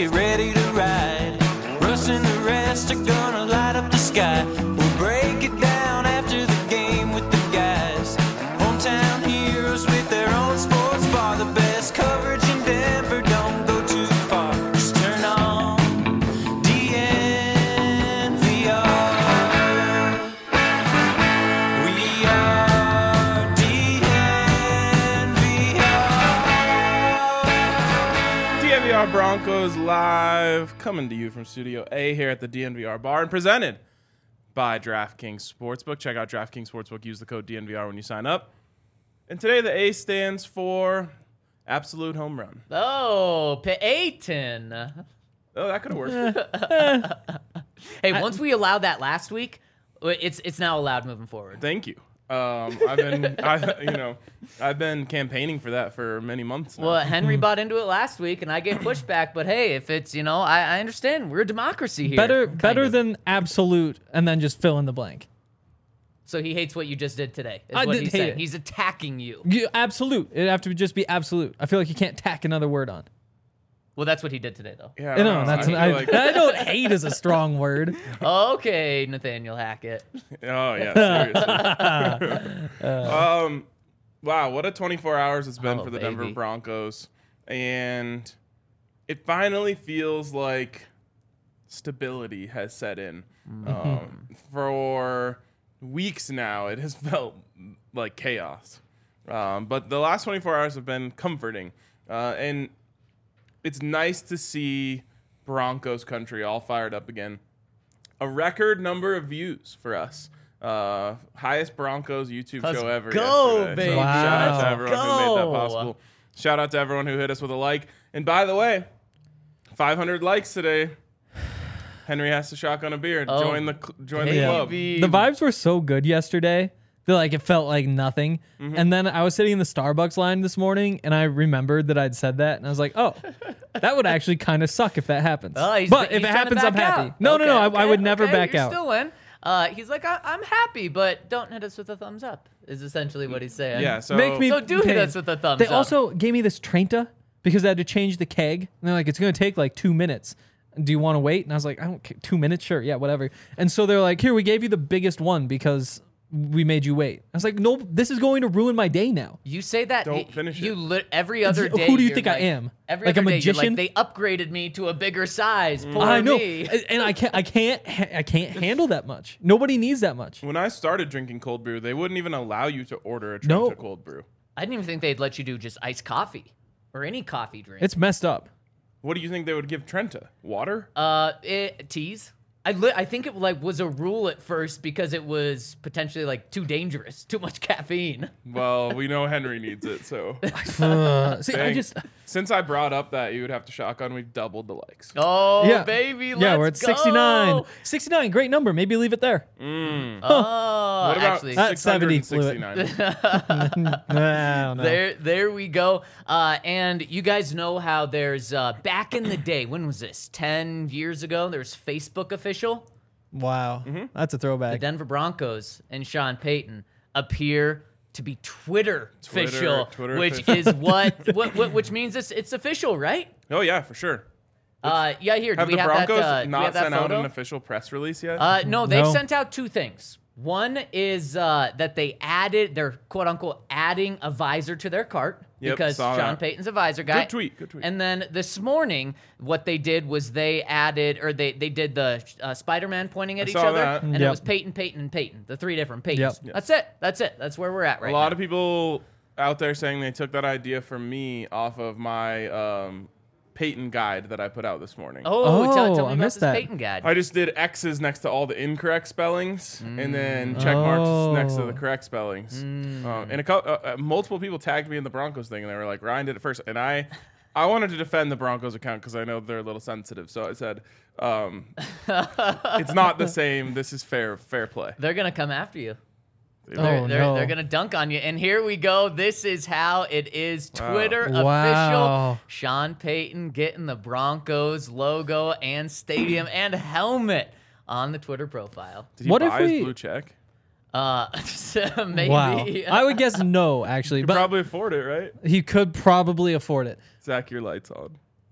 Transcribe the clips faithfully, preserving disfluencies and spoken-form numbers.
get ready to ride. Russ and the rest are gonna light up the sky. We'll break it down after the game with the guys. Hometown heroes with their own sports bar. The best coverage in Denver, don't go too far. Just turn on D N V R. We are D N V R. D N V R Broncos live, coming to you from Studio A here at the D N V R bar, and presented by DraftKings Sportsbook. Check out DraftKings Sportsbook. Use the code D N V R when you sign up. And today the A stands for absolute home run. Oh, Peyton. Oh, that could have worked. Hey, once we allowed that last week, it's it's now allowed moving forward. Thank you. Um, I've been, I, you know, I've been campaigning for that for many months now. Well, Henry bought into it last week, and I gave pushback. But hey, if it's, you know, I, I understand. We're a democracy here. Better kind better of. than absolute, and then just fill in the blank. So he hates what you just did today. Is I what did he's hate saying. it. He's attacking you. You, absolute. It'd have to just be absolute. I feel like you can't tack another word on. Well, that's what he did today, though. Yeah, I No, don't know. that's I, I, feel like, I don't hate is a strong word. Okay, Nathaniel Hackett. oh yeah, seriously. um, wow, what a twenty-four hours it's been Oh, for the baby. Denver Broncos, and it finally feels like stability has set in. Um, for weeks now, it has felt like chaos, um, but the last twenty-four hours have been comforting, uh, and it's nice to see Broncos country all fired up again. A record number of views for us. Uh, highest Broncos YouTube Let's show ever. go, yesterday. baby. So shout out Wow. to everyone who made that go. possible. Shout out to everyone who hit us with a like. And by the way, five hundred likes today. Henry has to shotgun a beer. Oh, join the cl- join the baby. club. The vibes were so good yesterday that like it felt like nothing. Mm-hmm. And then I was sitting in the Starbucks line this morning, and I remembered that I'd said that, and I was like, oh, that would actually kind of suck if that happens. Oh, he's- but he's if it trying to happens, I'm back happy. out. No, no, no, I, Okay, I would okay, never okay, back you're out. Still in. Uh, he's like, I- I'm happy, but don't hit us with a thumbs up. Is essentially what he's saying. Yeah, so Make me So do hit pain. us with a thumbs They up. also gave me this Trenta because they had to change the keg. And they're like, it's going to take like two minutes. Do you want to wait? And I was like, I don't care. Two minutes? Sure. Yeah, whatever. And so they're like, here, we gave you the biggest one because we made you wait. I was like, no, this is going to ruin my day now. You say that. Don't y- finish you it. Li- every other Who day. do you you're think I like- am? Every Like a other day, you're magician? Like, they upgraded me to a bigger size. Poor I know. me. And I can't, I can't, ha- I can't handle that much. Nobody needs that much. When I started drinking cold brew, they wouldn't even allow you to order a Trenta No. cold brew. I didn't even think they'd let you do just iced coffee or any coffee drink. It's messed up. What do you think they would give Trenta? Water? Uh, it, teas. I li- I think it like was a rule at first because it was potentially like too dangerous, too much caffeine. Well, we know Henry needs it, so. Uh, see, I Dang. just, Since I brought up that you would have to shotgun, we've doubled the likes. Oh, yeah. baby, let's yeah, we're at go. sixty-nine. sixty-nine, great number. Maybe leave it there. Oh, What about actually, At seventy, flew it. sixty-nine? I don't know. There, there we go. Uh, and you guys know how there's uh, back in the day. When was this? Ten years ago. There's Facebook official. Wow, that's a The throwback. Denver Broncos and Sean Payton appear to be Twitter, Twitter- official, Twitter which official. is what, what, what, which means it's it's official, right? Oh, yeah, for sure. Uh, yeah. Here, do Have we the have Broncos that? Uh, do we not have that sent out photo? an official press release yet? Uh, no, they've No. sent out two things. One is uh, that they added, they're quote unquote adding a visor to their cart Yep, because saw Sean that. Payton's a visor guy. Good tweet, good tweet. And then this morning, what they did was they added, or they, they did the uh, Spider-Man pointing at I each saw other, that. and it Yep. was Peyton, Peyton, and Peyton, the three different Peytons. Yep. Yes. That's it. That's it. That's where we're at right a lot now. of people out there saying they took that idea from me off of my um, Peyton guide that I put out this morning. Oh, tell, Oh, tell me I about missed this that. Peyton guide. I just did X's next to all the incorrect spellings, and then check marks Oh. next to the correct spellings. Um, and a co- uh, uh, multiple people tagged me in the Broncos thing, and they were like, "Ryan did it first. And I, I wanted to defend the Broncos account because I know they're a little sensitive. So I said, um, "It's not the same. This is fair, fair play." They're going to come after you. Oh, They're, they're, no. they're going to dunk on you. And here we go. This is how it is. Wow. Twitter Wow. official. Sean Payton getting the Broncos logo and stadium and helmet on the Twitter profile. Did he What if buy his we- blue check? Uh, so maybe. Wow. I would guess no, actually, You but probably afford it, right? he could probably afford it. Zach, your lights on.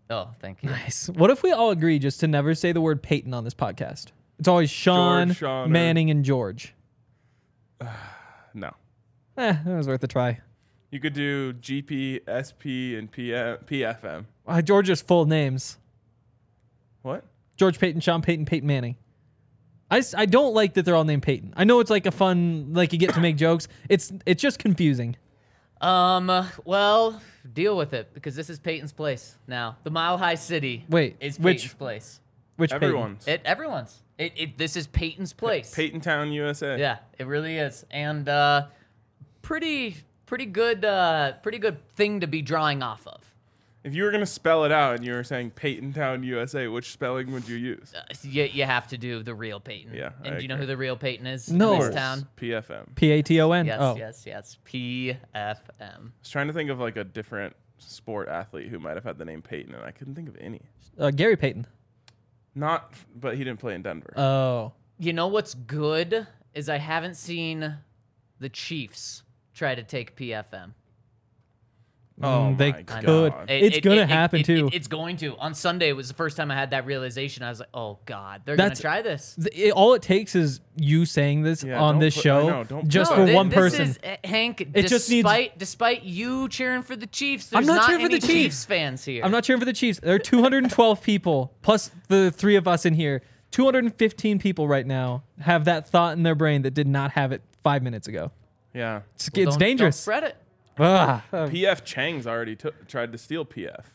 Oh, thank you. Nice. What if we all agree just to never say the word Peyton on this podcast? It's always Sean, George, Sean, or- Manning, and George. No. Eh, it was worth a try. You could do G P, S P, and P F M. Uh, George's full names. What? George Payton, Sean Payton, Peyton Manning. I, s- I don't like that they're all named Peyton. I know it's like a fun, like you get to make jokes. It's it's just confusing. Um, uh, well, deal with it because this is Peyton's place now. The Mile High City Wait, is which- Peyton's place. Which Everyone's. It everyone's. It, it this is Peyton's place. Peyton Town, U S A. Yeah, it really is. And uh pretty pretty good uh pretty good thing to be drawing off of. If you were going to spell it out and you were saying Peyton Town, U S A, which spelling would you use? Uh, you, you have to do the real Peyton. Yeah, I And do you know who agree. the real Peyton is No. in this town? P F M. P A T O N? Yes, Oh. yes, yes. P F M. I was trying to think of like a different sport athlete who might have had the name Peyton, and I couldn't think of any. Uh, Gary Payton. Not, but he didn't play in Denver. Oh. You know what's good is I haven't seen the Chiefs try to take P F M. oh, Mm, they my I could. God. It- It's it- gonna it- happen it- too. it- it's going to. On Sunday, it was the first time I had that realization. I was like, "Oh God, they're That's- gonna try this." Th- it- all it takes is you saying this Yeah, on don't this put- I show know, don't just put for that- thi- one this person. Is, uh, Hank, It just needs- despite despite you cheering for the Chiefs, I'm there's not cheering for any the Chiefs. fans here. I'm not cheering for the Chiefs. There are two hundred twelve people plus the three of us in here. two hundred fifteen people right now have that thought in their brain that did not have it five minutes ago. Yeah. It's, Well, it's don't- dangerous. Don't spread it. Ah. P F Chang's already took tried to steal P F.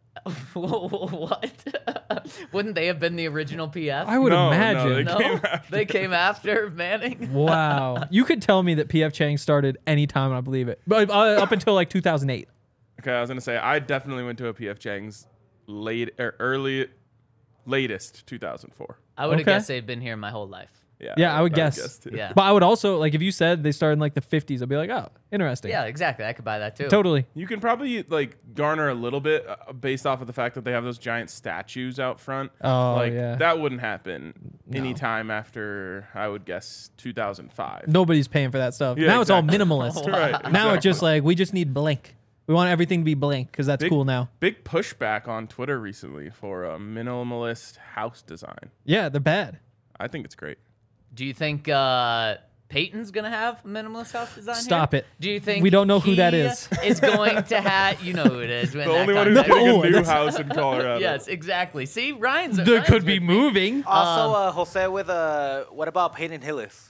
What? Wouldn't they have been the original P F? I would No, no, imagine. they no, came after. they came after Manning. Wow. You could tell me that P F Chang started anytime and I believe it. But uh, up until like two thousand eight. Okay, I was gonna say I definitely went to a P F Chang's late or early, latest two thousand four. I would have Okay. guessed they'd been here my whole life. Yeah. Yeah, I would guess. too. Yeah. But I would also, like, if you said they started in like the fifties, I'd be like, oh, interesting. Yeah, exactly. I could buy that too. Totally. You can probably like garner a little bit uh, based off of the fact that they have those giant statues out front. Oh, like yeah. that wouldn't happen anytime after I would guess two thousand five. Nobody's paying for that stuff. Yeah, now exactly. it's all minimalist. Right. Now it's exactly. just like, we just need blank. We want everything to be blank because that's Big- cool now. Big pushback on Twitter recently for a minimalist house design. Yeah, they're bad. I think it's great. Do you think uh, Peyton's gonna have a minimalist house design? Stop here? it. Do you think We don't know who he that is. is going to have? You know who it is. The only one who's No, getting a new that's- house in Colorado. Yes, exactly. See, Ryan's. There Ryan's could be with me. moving. Also, uh, Jose with uh, what about Peyton Hillis?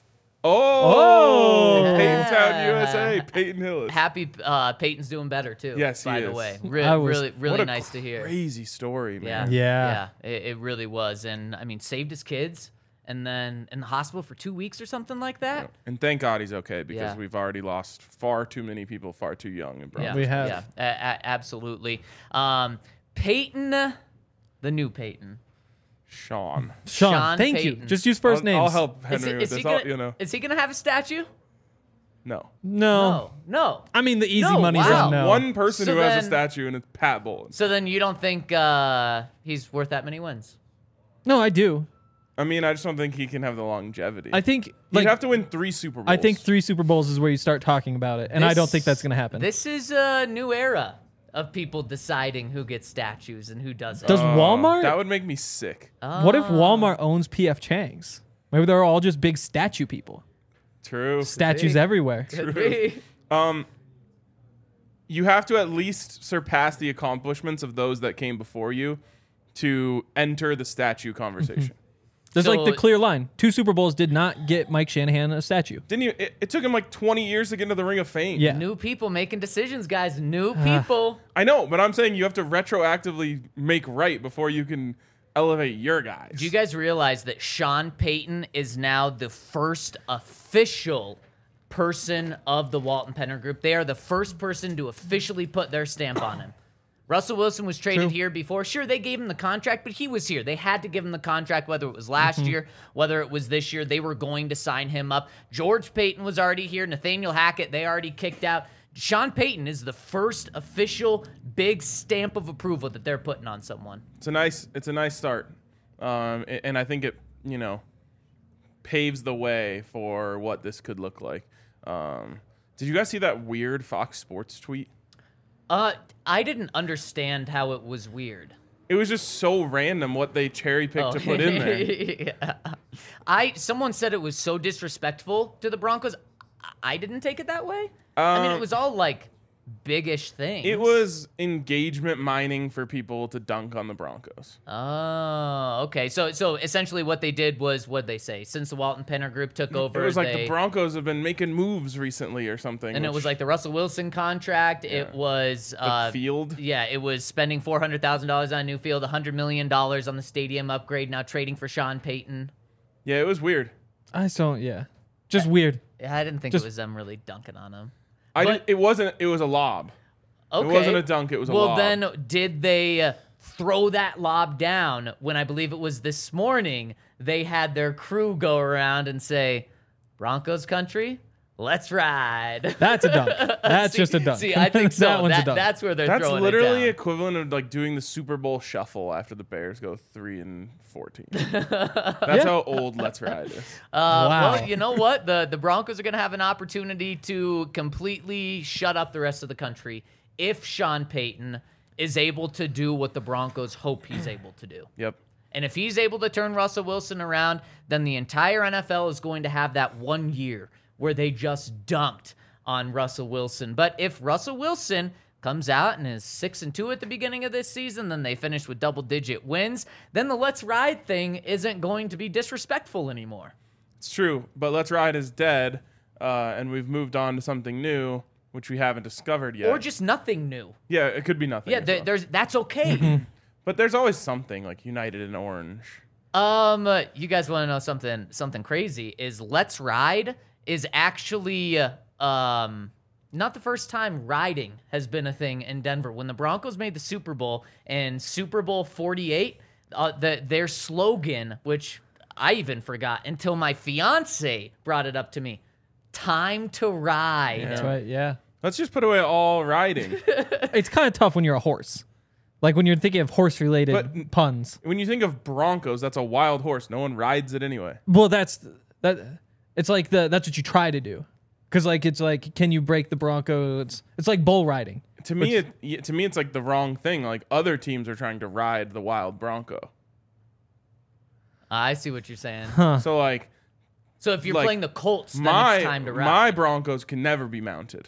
Oh, Oh. Peyton Town, Yeah. U S A, Peyton Hillis. Happy uh, Peyton's doing better too. Yes, he by the is. way, Re- I was- really, really What a nice to hear. Crazy story, Yeah, man. Yeah. yeah. It, it really was, and I mean, saved his kids, and then in the hospital for two weeks or something like that. And thank God he's okay because Yeah. we've already lost far too many people far too young in Bronx. Yeah, We have. Yeah, a- a- absolutely. Um, Peyton, the new Peyton. Sean. Sean, Sean thank you. Payton. Just use 1st I'll, names. I'll help Is, Henry he, with is, he this. I'll, gonna, you know, is he gonna have a statue? no. No. No, no. I mean, the easy No, money's wow. on no. One person So who has then- a statue, and it's Pat Bowlen. So then you don't think uh, he's worth that many wins? No, I do. I mean, I just don't think he can have the longevity. I think, He'd like, have to win three Super Bowls. I think three Super Bowls is where you start talking about it, and I don't This- think that's going to happen. This is a new era of people deciding who gets statues and who doesn't. Does Oh, Walmart? That would make me sick. What if Walmart owns P F Chang's? Maybe they're all just big statue people. True. Statues be. everywhere. Could be. Um, you have to at least surpass the accomplishments of those that came before you to enter the statue conversation. There's like So- the clear line. Two Super Bowls did not get Mike Shanahan a statue. Didn't you? It, it took him like twenty years to get into the Ring of Fame. Yeah. New people making decisions, guys. New people. I know, but I'm saying you have to retroactively make right before you can elevate your guys. Do you guys realize that Sean Payton is now the first official person of the Walton Penner Group? They are the first person to officially put their stamp on him. Russell Wilson was traded True. here before. Sure, they gave him the contract, but he was here. They had to give him the contract, whether it was last Mm-hmm. year, whether it was this year. They were going to sign him up. George Payton was already here. Nathaniel Hackett, they already kicked out. Sean Payton is the first official big stamp of approval that they're putting on someone. It's a nice. It's a nice start, um, a- and I think it, you know, paves the way for what this could look like. Um, did you guys see that weird Fox Sports tweet? Uh, I didn't understand how it was weird. it was just so random what they cherry picked to put in there. yeah. I someone said it was so disrespectful to the Broncos. I I didn't take it that way. I mean, it Um, was all like big-ish things. It was engagement mining for people to dunk on the Broncos. Oh, okay. So, so essentially, what they did was what they say. Since the Walton Penner Group took over, It was like they, the Broncos have been making moves recently or something. and it which- was like the Russell Wilson contract. It was the uh, field. Yeah, it was spending four hundred thousand dollars on a new field, one hundred million dollars on the stadium upgrade. Now trading for Sean Payton. Yeah, it was weird. I just don't. Yeah, just weird. Yeah, I didn't think Just- it was them really dunking on him. I But- did, it wasn't. It was a lob. Okay. It wasn't a dunk. It was a well, lob. then did they uh, throw that lob down when I believe it was this morning? They had their crew go around and say, "Broncos country, let's ride." That's a dunk. That's See- just a dunk. See, I think so. that one's That- a dunk. That's where they're That's throwing literally it down. equivalent of like doing the Super Bowl shuffle after the Bears go three and fourteen. That's Yeah. how old Let's Ride is. Uh, Wow. Well, you know what? The the Broncos are going to have an opportunity to completely shut up the rest of the country if Sean Payton is able to do what the Broncos hope he's able to do. Yep. And if he's able to turn Russell Wilson around, then the entire N F L is going to have that one year where they just dunked on Russell Wilson. But if Russell Wilson comes out and is six and two at the beginning of this season, then they finish with double-digit wins, then the let's ride thing isn't going to be disrespectful anymore. It's true, but Let's Ride is dead, uh, and we've moved on to something new, which we haven't discovered yet. Or just nothing new. yeah, it could be nothing. Yeah, as there, well. there's that's okay. But there's always something like United in Orange. Um, uh, you guys want to know something? Something crazy is Let's Ride is actually uh, um not the first time riding has been a thing in Denver. When the Broncos made the Super Bowl in Super Bowl forty-eight, uh, the their slogan, which I even forgot until my fiance brought it up to me, "Time to ride." That's right. Yeah. Let's just put away all riding. It's kind of tough when you're a horse. Like when you're thinking of horse-related But- puns. When you think of Broncos, that's a wild horse. No one rides it anyway. Well, that's that. It's like the that's what you try to do, because like it's like can you break the Bronco? It's it's like bull riding. To me, it, yeah, to me, it's like the wrong thing. Like other teams are trying to ride the wild Bronco. I see what you're saying. So like So if you're Like, playing the Colts, then my it's time to ride. my Broncos can never be mounted.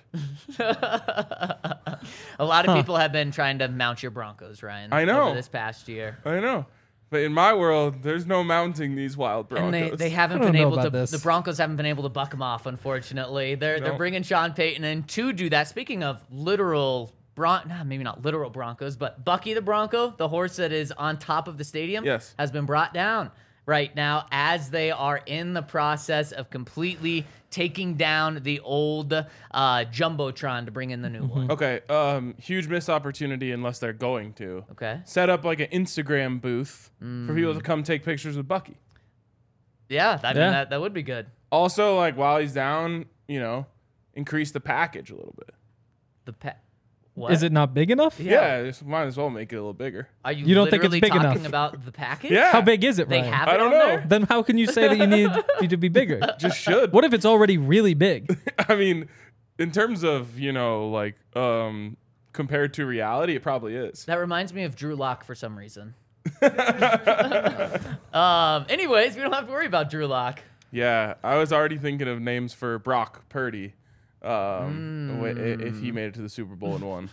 A lot of people have been trying to mount your Broncos, Ryan. I know. Over this past year. I know, but in my world, there's no mounting these wild Broncos. And they, they haven't I don't been know able to. about this. The Broncos haven't been able to buck them off. Unfortunately, they're they're No. bringing Sean Payton in to do that. Speaking of literal Bron, nah, maybe not literal Broncos, but Bucky the Bronco, the horse that is on top of the stadium, Yes. has been brought down right now as they are in the process of completely taking down the old uh, jumbotron to bring in the new one. Okay, um, huge missed opportunity unless they're going to. Okay. Set up like an Instagram booth for people to come take pictures with Bucky. Yeah, I mean Yeah. that that would be good. Also, like while he's down, you know, increase the package a little bit. The pet. What? Is it not big enough? Yeah, just might as well make it a little bigger. Are you, You don't think it's literally big talking enough? about the package? Yeah. How big is it, They Ryan? have I it don't on know. there? Then how can you say that you need it to be bigger? Just should. What if it's already really big? I mean, in terms of, you know, like um compared to reality, it probably is. That reminds me of Drew Lock for some reason. um. Anyways, we don't have to worry about Drew Lock. Yeah, I was already thinking of names for Brock Purdy. Um, wi- i- if he made it to the Super Bowl and won.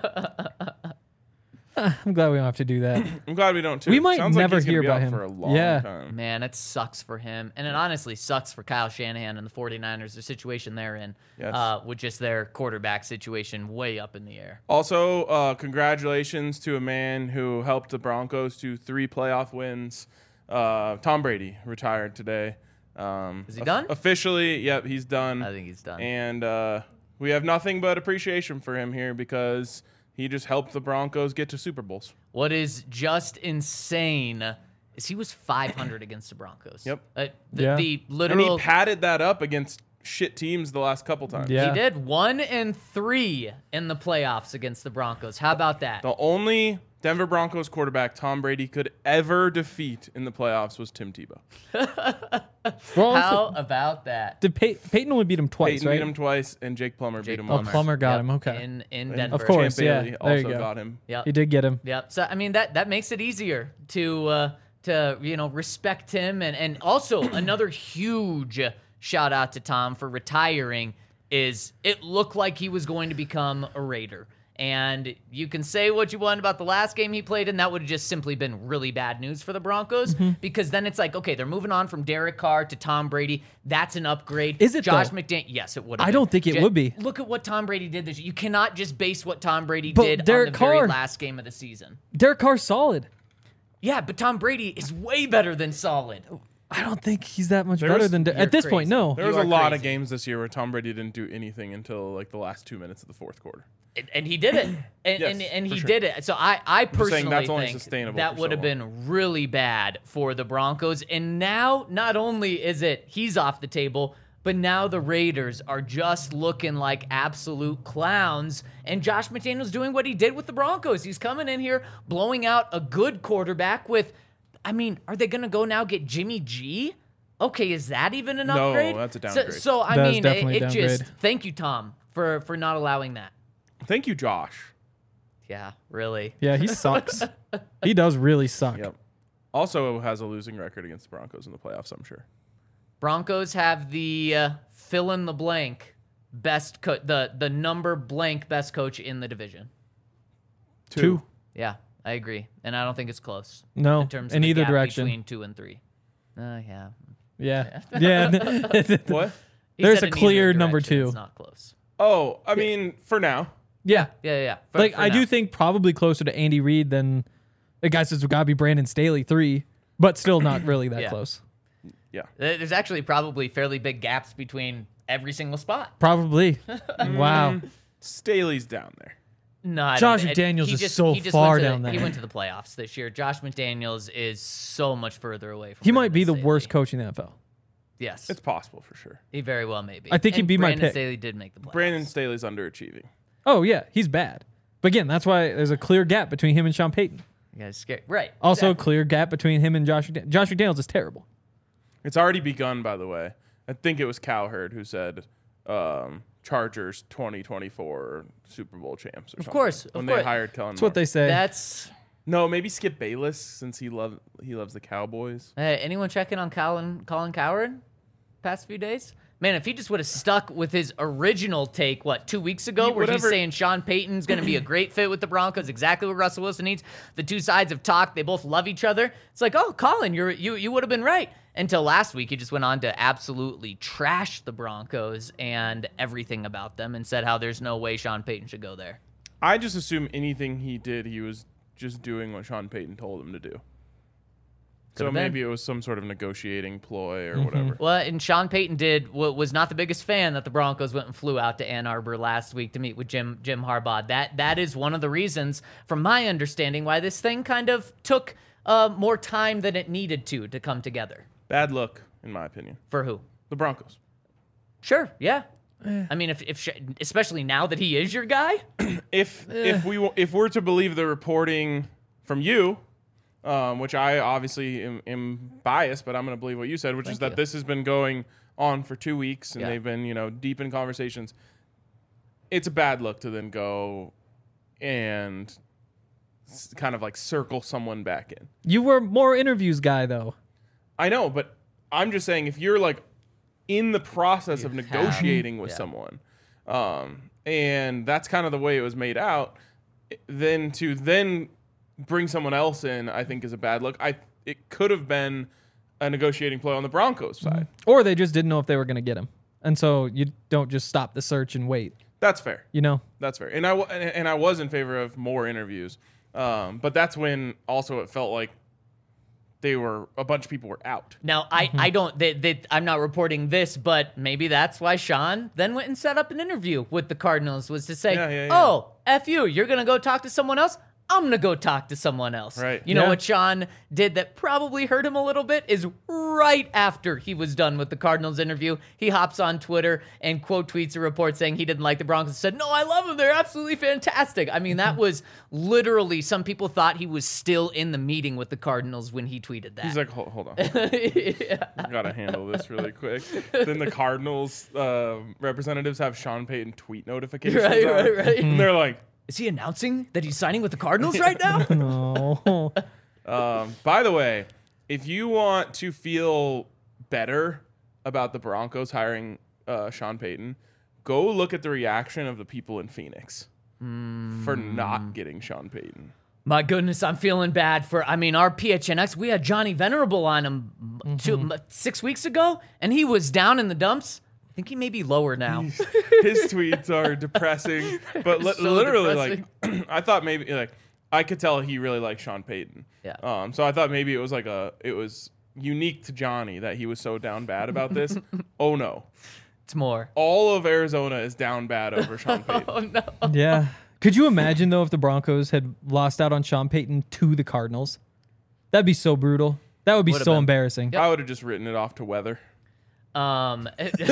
I'm glad we don't have to do that. I'm glad we don't too. We might Sounds like never he's gonna hear be about out him. for a long Yeah. time. Man, it sucks for him. And it honestly sucks for Kyle Shanahan and the 49ers, the situation they're in, Yes. uh, with just their quarterback situation way up in the air. Also, uh, congratulations to a man who helped the Broncos to three playoff wins. Uh, Tom Brady retired today. Um, Is he of- done? Officially, yep, he's done. I think he's done. And uh, we have nothing but appreciation for him here because he just helped the Broncos get to Super Bowls. What is just insane is he was five hundred against the Broncos. Yep. Uh, the, Yeah. the And literal. he padded that up against shit teams the last couple times. Yeah. He did one and three in the playoffs against the Broncos. How about that? The only Denver Broncos quarterback Tom Brady could ever defeat in the playoffs was Tim Tebow. Well, How about that? did Pey- Peyton only beat him twice, Peyton right? beat him twice, and Jake Plummer Jake beat him Oh, once. Plummer got Yep, him. Okay. In in And Denver. Of course. Champ yeah, Bailey there you also go. got him. Yep. He did get him. Yep. So I mean that that makes it easier to uh, to you know respect him, and and also another huge shout out to Tom for retiring. Is it looked like he was going to become a Raider. And you can say what you want about the last game he played in. That would have just simply been really bad news for the Broncos Mm-hmm. because then it's like, okay, they're moving on from Derek Carr to Tom Brady. That's an upgrade. Is it, Josh though? McDaniels? Yes, it would. I don't think it would be. Look at what Tom Brady did this year. You cannot just base what Tom Brady But did Derek on the Carr- very last game of the season. Derek Carr's solid. Yeah, but Tom Brady is way better than solid. I don't think he's that much There better was- than De- you're at this crazy. point. No. There You was a are lot of crazy. games this year where Tom Brady didn't do anything until like the last two minutes of the fourth quarter. And, and he did it, and Yes, and, and for he sure. did it. So I, I saying personally that's only think sustainable that for would so have long. been really bad for the Broncos. And now, not only is it he's off the table, but now the Raiders are just looking like absolute clowns. And Josh McDaniels doing what he did with the Broncos. He's coming in here, blowing out a good quarterback with. I mean, are they going to go now get Jimmy G? Okay, is that even an No, upgrade? that's a So, downgrade. so I That is mean, definitely it, a it just downgrade. thank you, Tom, for for not allowing that. Thank you, Josh. Yeah, really. Yeah, he sucks. He does really suck. Yep. Also has a losing record against the Broncos in the playoffs, I'm sure. Broncos have the uh, fill in the blank best co- the the number blank best coach in the division. Two. Yeah, I agree, and I don't think it's close. No, in terms in of the either gap direction. between two and three. Uh, yeah. Yeah. Yeah. What? He There's said a in either clear number direction, two. It's not close. Oh, I mean, for now. yeah. Yeah, yeah. yeah. For- Like for I do now. think probably closer to Andy Reid than the guy says it's got to be Brandon Staley three, but still not really that Yeah. close. Yeah. There- there's actually probably fairly big gaps between every single spot. Probably. Wow. Staley's down there. No, I Josh don't, McDaniels he is just, so he just far went to, down there. He went to the playoffs this year. Josh McDaniels is so much further away from. He might Brandon be the Staley. worst coach in the N F L. Yes, It's possible for sure. he very well may be. I think he'd And be my Brandon pick. Staley did make the playoffs. Brandon Staley's underachieving. Oh yeah, he's bad. But again, that's why there's a clear gap between him and Sean Payton. You guys scared, right? Also, a exactly. clear gap between him and Josh. McDaniels. Josh McDaniels is terrible. It's already begun, by the way. I think it was Cowherd who said um, Chargers twenty twenty-four Super Bowl champs. Or Of something, course, of when course. they hired Kellen. That's what they say. That's. No, maybe Skip Bayless since he love he loves the Cowboys. Hey, anyone checking on Colin Colin Cowherd past few days? Man, if he just would have stuck with his original take, what, two weeks ago, Yeah, where he's whatever- saying Sean Payton's going to be a great fit with the Broncos, exactly what Russell Wilson needs. The two sides have talked. They both love each other. It's like, oh, Colin, you're, you you would have been right. Until last week, he just went on to absolutely trash the Broncos and everything about them and said how there's no way Sean Payton should go there. I just assume anything he did, he was just doing what Sean Payton told him to do. So Could've been. maybe it was some sort of negotiating ploy Mm-hmm. or whatever. Well, and Sean Payton did what was not the biggest fan that the Broncos went and flew out to Ann Arbor last week to meet with Jim Jim Harbaugh. That that is one of the reasons, from my understanding, why this thing kind of took uh, more time than it needed to to come together. Bad look, in my opinion. For who? The Broncos. Sure, yeah. Eh. I mean, if if Sh- especially now that he is your guy, If if we w- if we're to believe the reporting from you, um, which I obviously am, am biased, but I'm going to believe what you said, which is Thank that you. this has been going on for two weeks and Yeah. they've been you know deep in conversations. It's a bad look to then go and s- kind of like circle someone back in. You were more interviews guy though. I know, but I'm just saying if you're like in the process of You have- negotiating with yeah. someone, um, and that's kind of the way it was made out, then to then bring someone else in, I think is a bad look. I it could have been a negotiating play on the Broncos side. Or they just didn't know if they were going to get him. And so you don't just stop the search and wait, That's fair. you know? That's fair. And I w- and and I was in favor of more interviews, um, but that's when also it felt like they were a bunch of people were out. now I Mm-hmm. I don't they, they, I'm not reporting this, but maybe that's why Sean then went and set up an interview with the Cardinals was to say, Yeah, yeah, yeah. oh, F you, you're gonna go talk to someone else. I'm going to go talk to someone else. Right. You know Yeah. what Sean did that probably hurt him a little bit is right after he was done with the Cardinals interview, he hops on Twitter and quote tweets a report saying he didn't like the Broncos and said, no, I love them. They're absolutely fantastic. I mean, that was literally, some people thought he was still in the meeting with the Cardinals when he tweeted that. He's like, hold, hold on. I gotta handle this really quick. Then the Cardinals uh, representatives have Sean Payton tweet notifications Right, on. right, right. And they're like, Is he announcing that he's signing with the Cardinals right now? Oh. um, by the way, if you want to feel better about the Broncos hiring uh, Sean Payton, go look at the reaction of the people in Phoenix for not getting Sean Payton. My goodness, I'm feeling bad for, I mean, our P H N X, we had Johnny Venerable on him two, m- six weeks ago, and he was down in the dumps. I think he may be lower now. His tweets are depressing, but li- So literally, like, I thought maybe, like, I could tell he really liked Sean Payton. Yeah. Um. So I thought maybe it was like a, it was unique to Johnny that he was so down bad about this. Oh no, It's more. all of Arizona is down bad over Sean Payton. Oh, no. Yeah. Could you imagine, though, if the Broncos had lost out on Sean Payton to the Cardinals? That'd be so brutal. That would be Would've so been. embarrassing. I would have just written it off to weather. Um,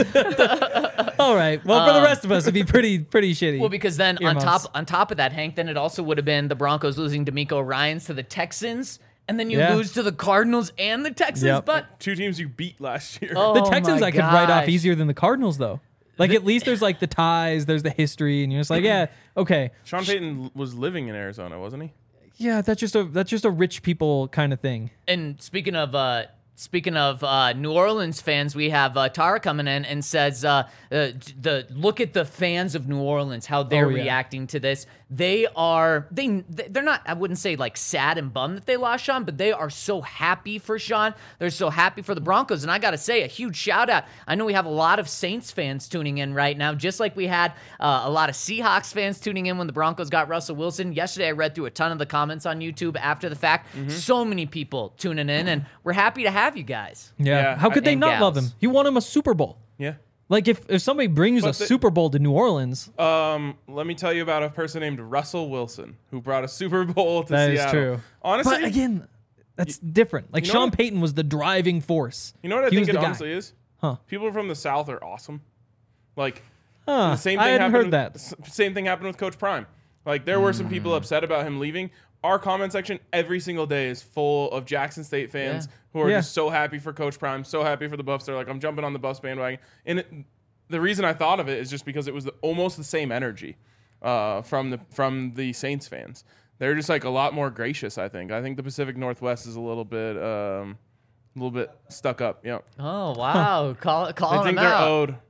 All right. Well, for the rest of us, it'd be pretty pretty shitty. well, because then on Earmuffs. top on top of that, Hank, then it also would have been the Broncos losing D'Amico Ryans to the Texans, and then you Yeah. lose to the Cardinals and the Texans. Yep. But Two teams you beat last year. oh, the Texans my I could write off gosh. easier than the Cardinals, though. Like, at least there's, like, the ties, there's the history, and you're just like, yeah, okay. Sean Payton was living in Arizona, wasn't he? Yeah, that's just a that's just a rich people kind of thing. And speaking of uh, speaking of uh, New Orleans fans, we have uh, Tara coming in and says, uh, uh, "the look at the fans of New Orleans, how they're Oh, yeah. reacting to this. They are they they're not. I wouldn't say like sad and bummed that they lost Sean, but they are so happy for Sean. They're so happy for the Broncos. And I got to say, a huge shout out. I know we have a lot of Saints fans tuning in right now, just like we had uh, a lot of Seahawks fans tuning in when the Broncos got Russell Wilson. Yesterday, I read through a ton of the comments on YouTube after the fact. Mm-hmm. So many people tuning in, and we're happy to have you guys. Yeah. Yeah, How could I- they and not love gals. him? He won him a Super Bowl. Yeah. Like, if, if somebody brings But a the- Super Bowl to New Orleans, Um, let me tell you about a person named Russell Wilson who brought a Super Bowl to that is Seattle. true. Honestly, But again, that's different. Like, you know Sean what- Payton was the driving force. you know what I he think was it the honestly guy. is? Huh. People from the South are awesome. Like, Huh. the same I thing hadn't happened. heard that. s- Same thing happened with Coach Prime. Like, there were some people upset about him leaving. Our comment section every single day is full of Jackson State fans Yeah. who are Yeah. just so happy for Coach Prime, so happy for the Buffs. They're like, I'm jumping on the Buffs bandwagon. And it, the reason I thought of it is just because it was the, almost the same energy uh, from the from the Saints fans. They're just like a lot more gracious. I think. I think the Pacific Northwest is a little bit, um, a little bit stuck up. Yeah, Oh wow, call calling I think them they're out. owed.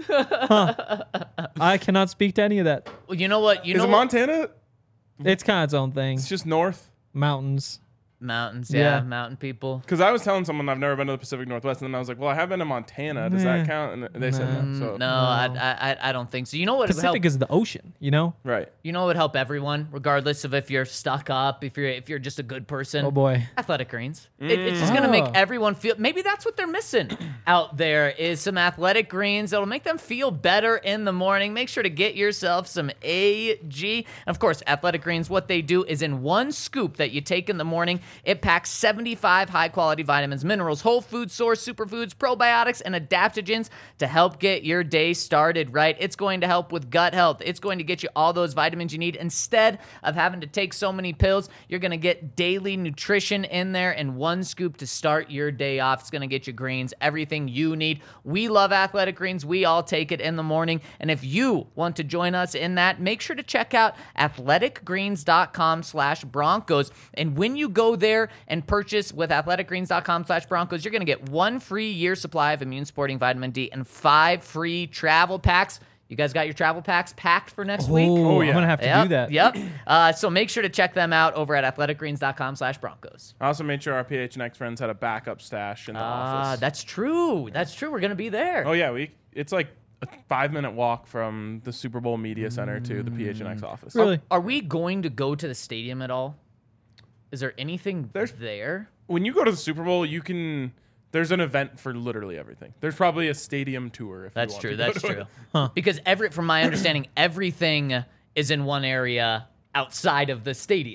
I cannot speak to any of that. Well, you know what? You Is know it what? Montana? It's kind of its own thing. It's just north. Mountains. Mountains, yeah, Yeah. mountain people. Because I was telling someone I've never been to the Pacific Northwest, and then I was like, "Well, I have been to Montana. Does that Nah. count?" And they said no. So No, I, I, I don't think so. You know what would help? Pacific is the ocean, you know? right. You know what would help everyone, regardless of if you're stuck up, if you're if you're just a good person. Oh, boy. Athletic Greens. It, it's just gonna make Oh. everyone feel. Maybe that's what they're missing out there is some Athletic Greens that'll make them feel better in the morning. Make sure to get yourself some A G. And of course, Athletic Greens. What they do is in one scoop that you take in the morning, it packs seventy-five high-quality vitamins, minerals, whole food source, superfoods, probiotics, and adaptogens to help get your day started right. It's going to help with gut health. It's going to get you all those vitamins you need. Instead of having to take so many pills, you're going to get daily nutrition in there in one scoop to start your day off. It's going to get you greens, everything you need. We love Athletic Greens. We all take it in the morning. And if you want to join us in that, make sure to check out athleticgreens.com slash Broncos. And when you go there and purchase with athleticgreens.com slash Broncos, you're going to get one free year supply of immune supporting vitamin D and five free travel packs. You guys got your travel packs packed for next week? Oh, yeah. I'm going to have to Yep, do that. Yep. Uh, so make sure to check them out over at athleticgreens.com slash Broncos. I also made sure our P H N X friends had a backup stash in the Ah, office. that's true. That's true. We're going to be there. Oh yeah, we. It's like a five minute walk from the Super Bowl Media Center to the P H N X office. Really? Are we going to go to the stadium at all? Is there anything There's- there? When you go to the Super Bowl, you can. There's an event for literally everything. There's probably a stadium tour. If That's you want true. to go That's to true. it. Huh. Because every, from my understanding, everything is in one area outside of the stadium.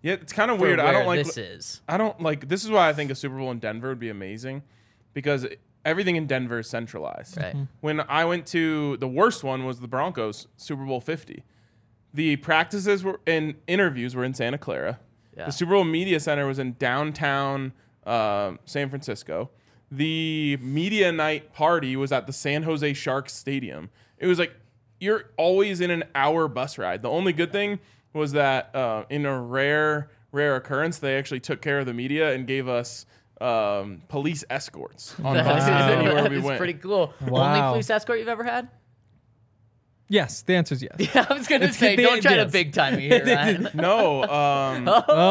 Yeah, it's kind of for weird. I where don't like this is. I don't like this is why I think a Super Bowl in Denver would be amazing because everything in Denver is centralized. Right. When I went to the worst one was the Broncos Super Bowl fifty. The practices were and interviews were in Santa Clara. Yeah. The Super Bowl Media Center was in downtown uh, San Francisco. The media night party was at the San Jose Sharks Stadium. It was like you're always in an hour bus ride. The only good thing was that uh, in a rare, rare occurrence, they actually took care of the media and gave us um, police escorts on That buses is- anywhere that we is went. pretty cool. Only Wow. police escort you've ever had? Yes, the answer is yes. Yeah, I was gonna It's- say, the- don't try to yes. big time me here, Ryan. No, um,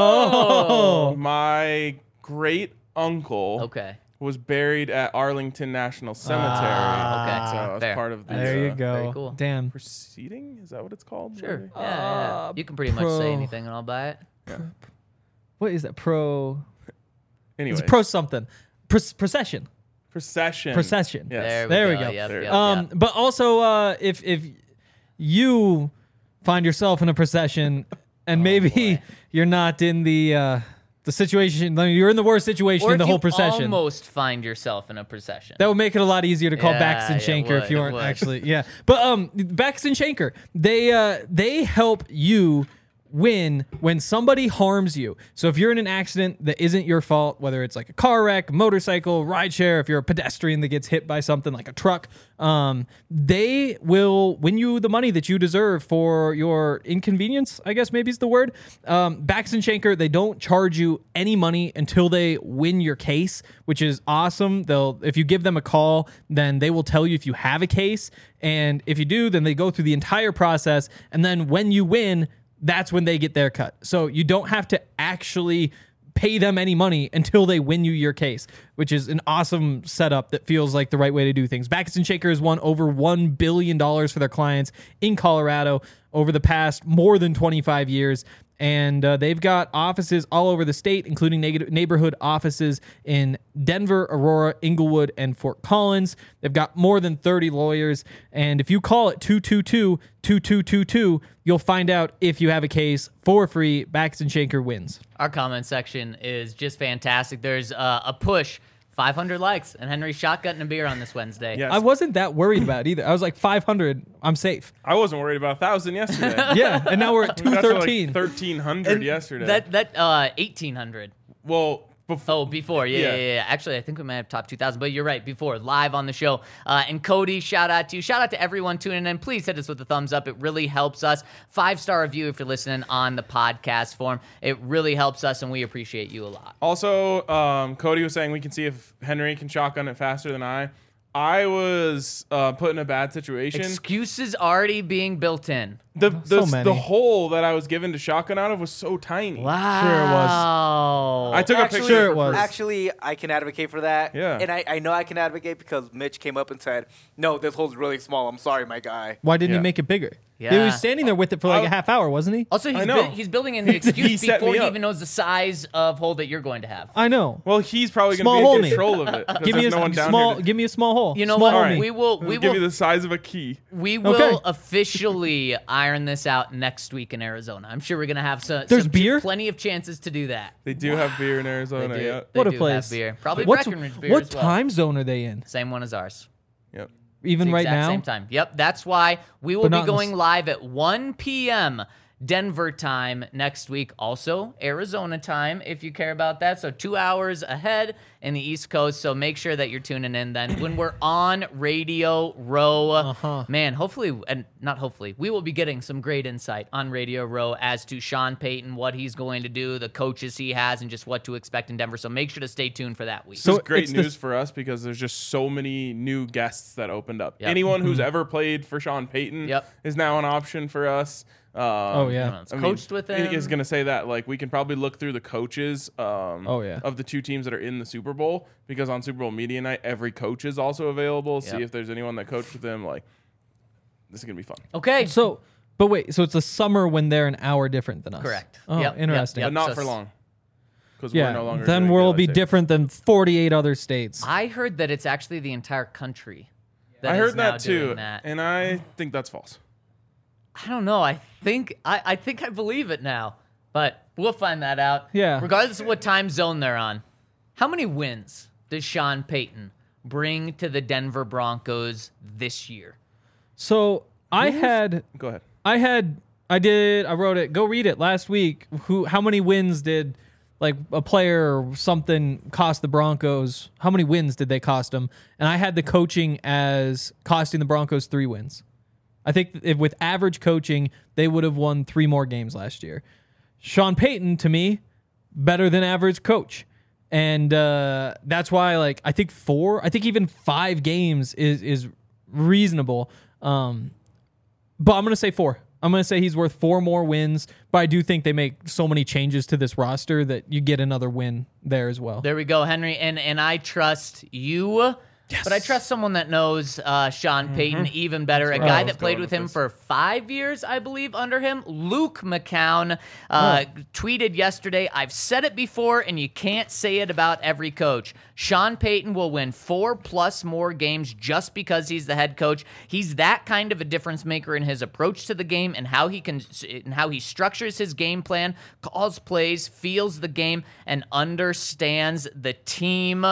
Oh. my great uncle Okay. was buried at Arlington National Cemetery. Ah, so okay. I was Fair. part of the There you uh, go. Very cool. Damn. proceeding. Is that what it's called? Sure. maybe? Yeah, yeah. Uh, You can pretty much pro- say anything and I'll buy it. What is that? Pro. Anyway, It's pro something. Pro- procession. procession. Procession. Yes. There we There go. we go. Yep, There. yep, Um, yep. but also, uh, if if you find yourself in a procession and Oh, maybe you're not in the uh, the situation, you're in the worst situation Or in the if whole you procession. almost find yourself in a procession. That would make it a lot easier to call Yeah, Baxton it Shanker would, if you it weren't would. actually, yeah. But um, Baxton Shanker, they uh, they help you win when somebody harms you. So if you're in an accident that isn't your fault, whether it's like a car wreck, motorcycle, rideshare, if you're a pedestrian that gets hit by something like a truck, um, they will win you the money that you deserve for your inconvenience, I guess maybe is the word. Um, Baxton Shanker, they don't charge you any money until they win your case, which is awesome. They'll, if you give them a call, then they will tell you if you have a case. And if you do, then they go through the entire process. And then when you win, that's when they get their cut. So you don't have to actually pay them any money until they win you your case, which is an awesome setup that feels like the right way to do things. Baxton Shanker has won over one billion dollars for their clients in Colorado over the past more than twenty-five years. And uh, they've got offices all over the state, including neg- neighborhood offices in Denver, Aurora, Inglewood, and Fort Collins. They've got more than thirty lawyers. And if you call it two two two, two two two two, you'll find out if you have a case for free. Baxton Shanker wins. Our comment section is just fantastic. There's uh, a push, five hundred likes, and Henry's shotgunning a beer on this Wednesday. Yes. I wasn't that worried about it either. I was like five hundred, I'm safe. I wasn't worried about a thousand yesterday. Yeah, and now we're at We got two to, like, thirteen. thirteen hundred yesterday. That that uh, eighteen hundred. well, before. Oh, before. Yeah, Yeah. yeah, yeah, yeah. Actually, I think we might have top two thousand, but you're right. Before, live on the show. Uh, and Cody, shout out to you. Shout out to everyone tuning in. Please hit us with a thumbs up. It really helps us. Five-star review if you're listening on the podcast form. It really helps us, and we appreciate you a lot. Also, um, Cody was saying we can see if Henry can shotgun it faster than I. I was uh, put in a bad situation. Excuses already being built in. The the, So many. the hole that I was given to shotgun out of was so tiny. Wow. I took a Actually, picture. Sure it was. Actually, I can advocate for that. Yeah. And I, I know I can advocate because Mitch came up and said, no, this hole's really small. I'm sorry, my guy. Why didn't Yeah. he make it bigger? He Yeah. was standing there with it for like I- a half hour, wasn't he? Also, he's, I know. bu- he's building in the He excuse set before me he up. even knows the size of hole that you're going to have. I know. Well, he's probably going Small to be hole in me. control of it. 'cause Give me a there's no one down small. here to- Give me a small hole. You know small what? hole All right. We will. We Give will. me the size of a key. We will Okay. officially iron this out next week in Arizona. I'm sure we're gonna have some. There's some beer? Plenty of chances to do that. They do have beer in They Arizona. do. Yeah. They What a do place. Have beer. Probably What's, Breckenridge beer what as well. time zone are they in? Same one as ours. Yep. Even The right exact now? Same time. Yep. That's why we will But be not in the going s- live at one p.m. Denver time next week. Also Arizona time, if you care about that. So two hours ahead in the East Coast. So make sure that you're tuning in then when we're on Radio Row. Uh-huh. Man, hopefully, and not hopefully, we will be getting some great insight on Radio Row as to Sean Payton, what he's going to do, the coaches he has, and just what to expect in Denver. So make sure to stay tuned for that week. So This is great it's the- news for us because there's just so many new guests that opened up. Yep. Anyone who's Mm-hmm. ever played for Sean Payton Yep. is now an option for us. Um, Oh, yeah. Everyone's coached with I him. is going to say that like we can probably look through the coaches um, Oh, yeah. of the two teams that are in the Super Bowl because on Super Bowl media night every coach is also available. See Yep. if there's anyone that coached with him. Like this is going to be fun. Okay. So, but wait, so it's the summer when they're an hour different than us. Correct. Oh, Yep, yep, interesting. yep. But not so for s- long because Yeah. we're no longer then doing we'll daylight be savings. different than forty-eight other states. I heard that it's actually the entire country. That I is heard now that too, doing that. and I think that's false. I don't know. I think I, I think I believe it now. but we'll find that out. Yeah. Regardless of what time zone they're on, how many wins does Sean Payton bring to the Denver Broncos this year? So I had, Go ahead. I had, I did, I wrote it. Go read it last week. Who? How many wins did like a player or something cost the Broncos? How many wins did they cost them? And I had the coaching as costing the Broncos three wins. I think if with average coaching, they would have won three more games last year. Sean Payton, to me, better than average coach. And uh, that's why, like, I think four, I think even five games is is reasonable. Um, but I'm going to say four. I'm going to say he's worth four more wins, but I do think they make so many changes to this roster that you get another win there as well. There we go, Henry. And and I trust you, Yes. but I trust someone that knows uh, Sean Payton even better. A where I guy was that played going with with him this. for five years, I believe, under him. Luke McCown uh, tweeted yesterday, I've said it before, and you can't say it about every coach. Sean Payton will win four plus more games just because he's the head coach. He's that kind of a difference maker in his approach to the game and how he can and how he structures his game plan, calls plays, feels the game, and understands the team.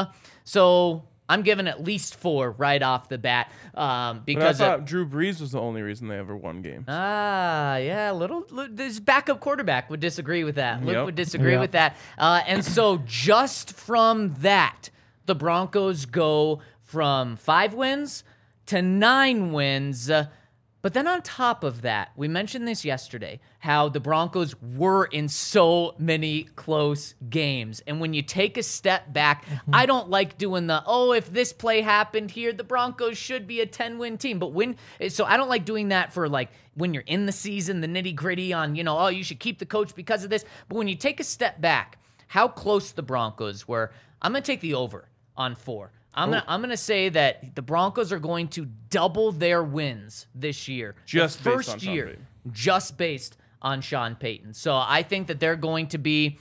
So I'm giving at least four right off the bat um, But I because of, thought Drew Brees was the only reason they ever won games. Ah, yeah, little, little this backup quarterback would disagree with that. Luke Yep. would disagree Yep. with that. Uh, and so just from that, the Broncos go from five wins to nine wins. Uh, but then on top of that, we mentioned this yesterday, how the Broncos were in so many close games. And when you take a step back, I don't like doing the, oh, if this play happened here, the Broncos should be a ten-win team. But when, so I don't like doing that for like when you're in the season, the nitty-gritty on, you know, oh, you should keep the coach because of this. But when you take a step back, how close the Broncos were, I'm going to take the over on four. I'm gonna I'm gonna say that the Broncos are going to double their wins this year. Just the based first on Sean year, Payton. just based on Sean Payton. So I think that they're going to be.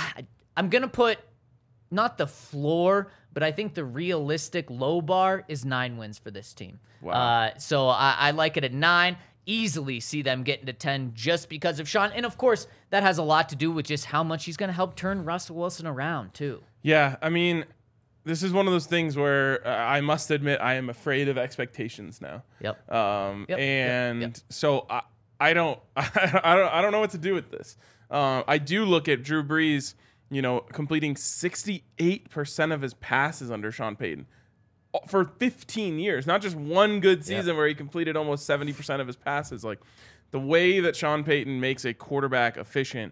I'm gonna put not the floor, but I think the realistic low bar is nine wins for this team. Wow. Uh, so I, I like it at nine. Easily see them getting to ten just because of Sean, and of course that has a lot to do with just how much he's gonna help turn Russell Wilson around too. Yeah, I mean, this is one of those things where uh, I must admit I am afraid of expectations now. Yep. Um, Yep, yep, and yep. so I, I don't, I don't, I don't know what to do with this. Um, I do look at Drew Brees, you know, completing sixty-eight percent of his passes under Sean Payton for fifteen years, not just one good season where he completed almost seventy percent of his passes. Like the way that Sean Payton makes a quarterback efficient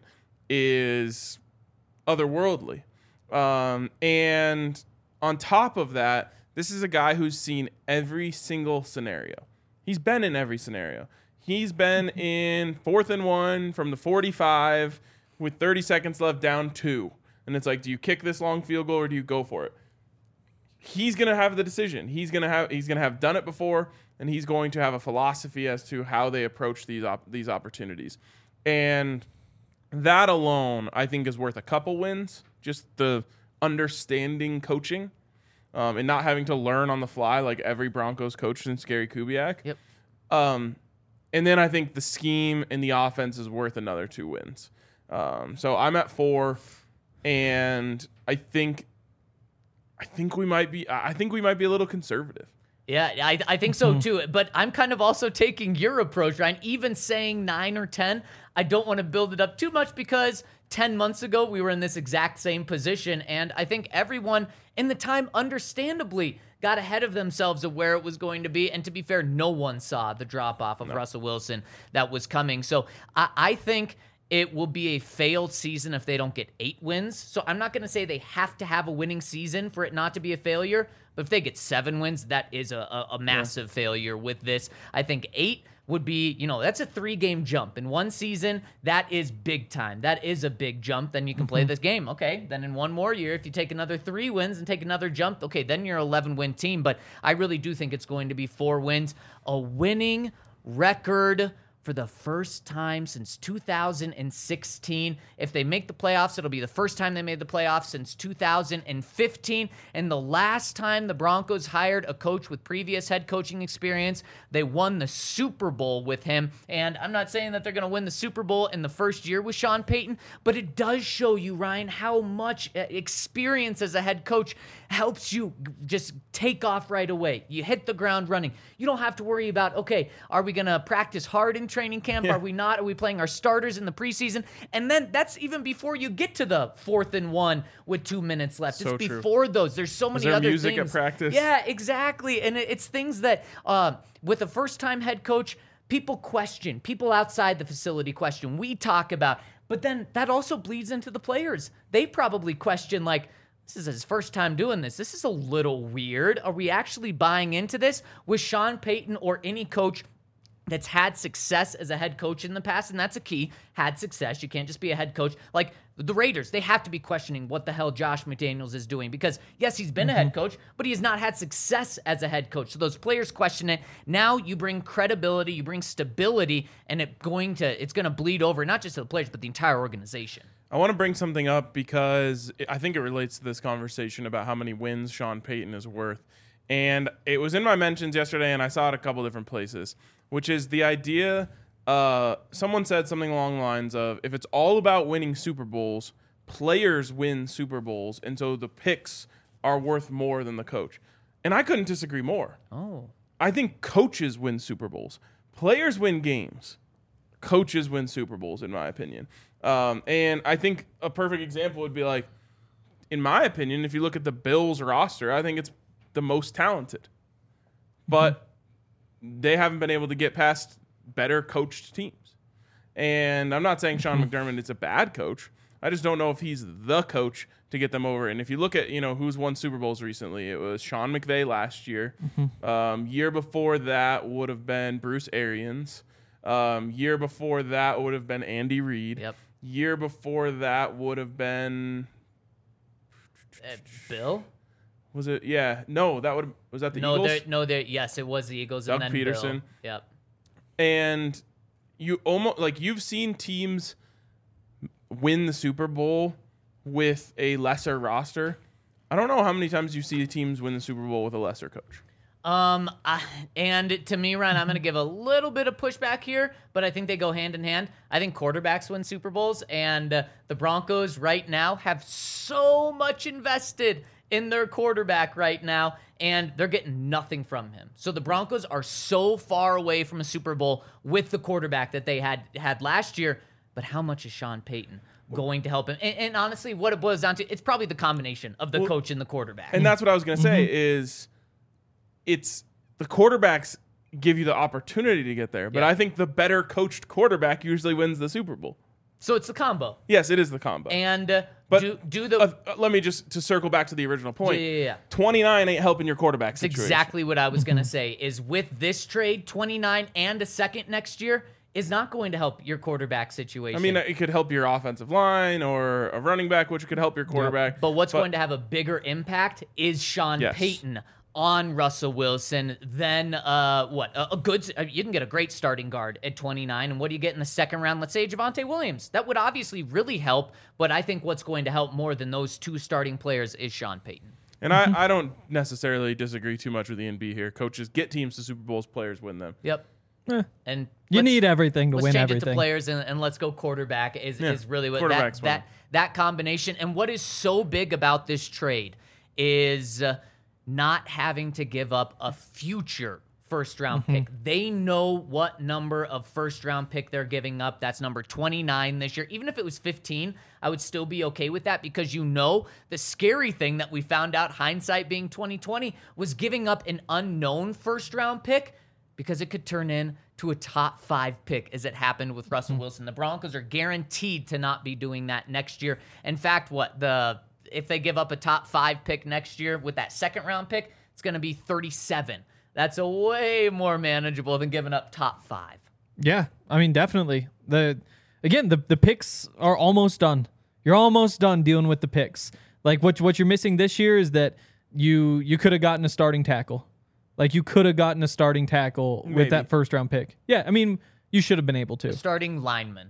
is otherworldly. Um, and on top of that, this is a guy who's seen every single scenario. He's been in every scenario. He's been in fourth and one from the forty-five with thirty seconds left, down two. And it's like, do you kick this long field goal or do you go for it? He's gonna have the decision. He's gonna have he's gonna have done it before, and he's going to have a philosophy as to how they approach these op- these opportunities. And that alone, I think, is worth a couple wins. Just the understanding coaching, um, and not having to learn on the fly like every Broncos coach since Gary Kubiak. Yep. Um, and then I think the scheme and the offense is worth another two wins. Um, so I'm at four, and I think, I think we might be, I think we might be a little conservative. Yeah, I, I think so too. But I'm kind of also taking your approach, Ryan. Even saying nine or ten, I don't want to build it up too much because ten months ago we were in this exact same position. And I think everyone in the time, understandably, got ahead of themselves of where it was going to be. And to be fair, no one saw the drop off of no. Russell Wilson that was coming. So I, I think it will be a failed season if they don't get eight wins. So I'm not going to say they have to have a winning season for it not to be a failure. But if they get seven wins, that is a, a, a massive yeah. failure with this. I think eight would be, you know, that's a three-game jump. In one season, that is big time. That is a big jump. Then you can play this game. Okay, then in one more year, if you take another three wins and take another jump, okay, then you're an eleven-win team. But I really do think it's going to be four wins. A winning record for the first time since two thousand sixteen. If they make the playoffs, it'll be the first time they made the playoffs since two thousand fifteen. And the last time the Broncos hired a coach with previous head coaching experience, they won the Super Bowl with him. And I'm not saying that they're going to win the Super Bowl in the first year with Sean Payton, but it does show you, Ryan, how much experience as a head coach helps you just take off right away. You hit the ground running. You don't have to worry about, okay, are we going to practice hard in training camp? Yeah. Are we not? Are we playing our starters in the preseason? And then that's even before you get to the fourth and one with two minutes left. So it's true. before those. There's so many there other music at things. practice? Yeah, exactly. And it- it's things that uh, with a first-time head coach, people question. People outside the facility question. We talk about. But then that also bleeds into the players. They probably question, like, this is his first time doing this. This is a little weird. Are we actually buying into this? With Sean Payton or any coach that's had success as a head coach in the past, and that's a key, had success. You can't just be a head coach. Like the Raiders, they have to be questioning what the hell Josh McDaniels is doing because, yes, he's been a head coach, but he has not had success as a head coach. So those players question it. Now you bring credibility, you bring stability, and it going to it's going to bleed over, not just to the players, but the entire organization. I want to bring something up because I think it relates to this conversation about how many wins Sean Payton is worth. And it was in my mentions yesterday, and I saw it a couple different places, which is the idea, uh, someone said something along the lines of, if it's all about winning Super Bowls, players win Super Bowls, and so the picks are worth more than the coach. And I couldn't disagree more. Oh. I think coaches win Super Bowls. Players win games. Coaches win Super Bowls, in my opinion. Um, and I think a perfect example would be like, in my opinion, if you look at the Bills roster, I think it's the most talented. But mm-hmm. they haven't been able to get past better coached teams. And I'm not saying Sean McDermott is a bad coach. I just don't know if he's the coach to get them over. And if you look at, you know, who's won Super Bowls recently, it was Sean McVay last year. Mm-hmm. Um, year before that would have been Bruce Arians. Um, year before that would have been Andy Reid. Yep. Year before that would have been Uh, Bill? was it? Yeah, no, that would was that the no, Eagles? there, no, there. Yes, it was the Eagles. Doug and then Peterson. Bill. Yep. And you almost like you've seen teams win the Super Bowl with a lesser roster. I don't know how many times you see teams win the Super Bowl with a lesser coach. Um, I, and to me, Ryan, I'm going to give a little bit of pushback here, but I think they go hand in hand. I think quarterbacks win Super Bowls, and uh, the Broncos right now have so much invested in their quarterback right now, and they're getting nothing from him. So the Broncos are so far away from a Super Bowl with the quarterback that they had had last year, but how much is Sean Payton going to help him? And, and honestly, what it boils down to, it's probably the combination of the Well, coach and the quarterback. And that's what I was going to say is it's the quarterbacks give you the opportunity to get there, but Yeah. I think the better coached quarterback usually wins the Super Bowl. So it's the combo. Yes, it is the combo. And uh, But do, do the... uh, uh, let me just to circle back to the original point. Yeah, yeah, yeah. twenty-nine ain't helping your quarterback That's situation. exactly what I was going to say, is with this trade, twenty-nine and a second next year is not going to help your quarterback situation. I mean, it could help your offensive line or a running back, which could help your quarterback. but what's going to have a bigger impact is Sean Yes. Payton on Russell Wilson. Then uh, what? A, a good. Uh, you can get a great starting guard at twenty-nine, and what do you get in the second round? Let's say Javonte Williams. That would obviously really help. But I think what's going to help more than those two starting players is Sean Payton. And I, I don't necessarily disagree too much with Ian B here. Coaches get teams to Super Bowls, players win them. Yep. Eh, And you let's- need everything to let's win change everything. it to players and, and let's go quarterback is, Yeah, is really what that, quarterback's that fine. that combination. And what is so big about this trade is uh, not having to give up a future first round Mm-hmm. pick. They know what number of first round pick they're giving up. That's number twenty-nine this year. Even if it was fifteen, I would still be okay with that because you know the scary thing that we found out, hindsight being twenty twenty, was giving up an unknown first round pick because it could turn in to a top five pick as it happened with Russell Wilson. The Broncos are guaranteed to not be doing that next year. In fact, what the if they give up a top five pick next year with that second round pick, it's going to be thirty-seven. That's a way more manageable than giving up top five. Yeah, I mean, definitely. The again, the the picks are almost done. You're almost done dealing with the picks. Like what what you're missing this year is that you you could have gotten a starting tackle. Like you could have gotten a starting tackle Maybe. with that first round pick. Yeah, I mean, You should have been able to. Starting lineman.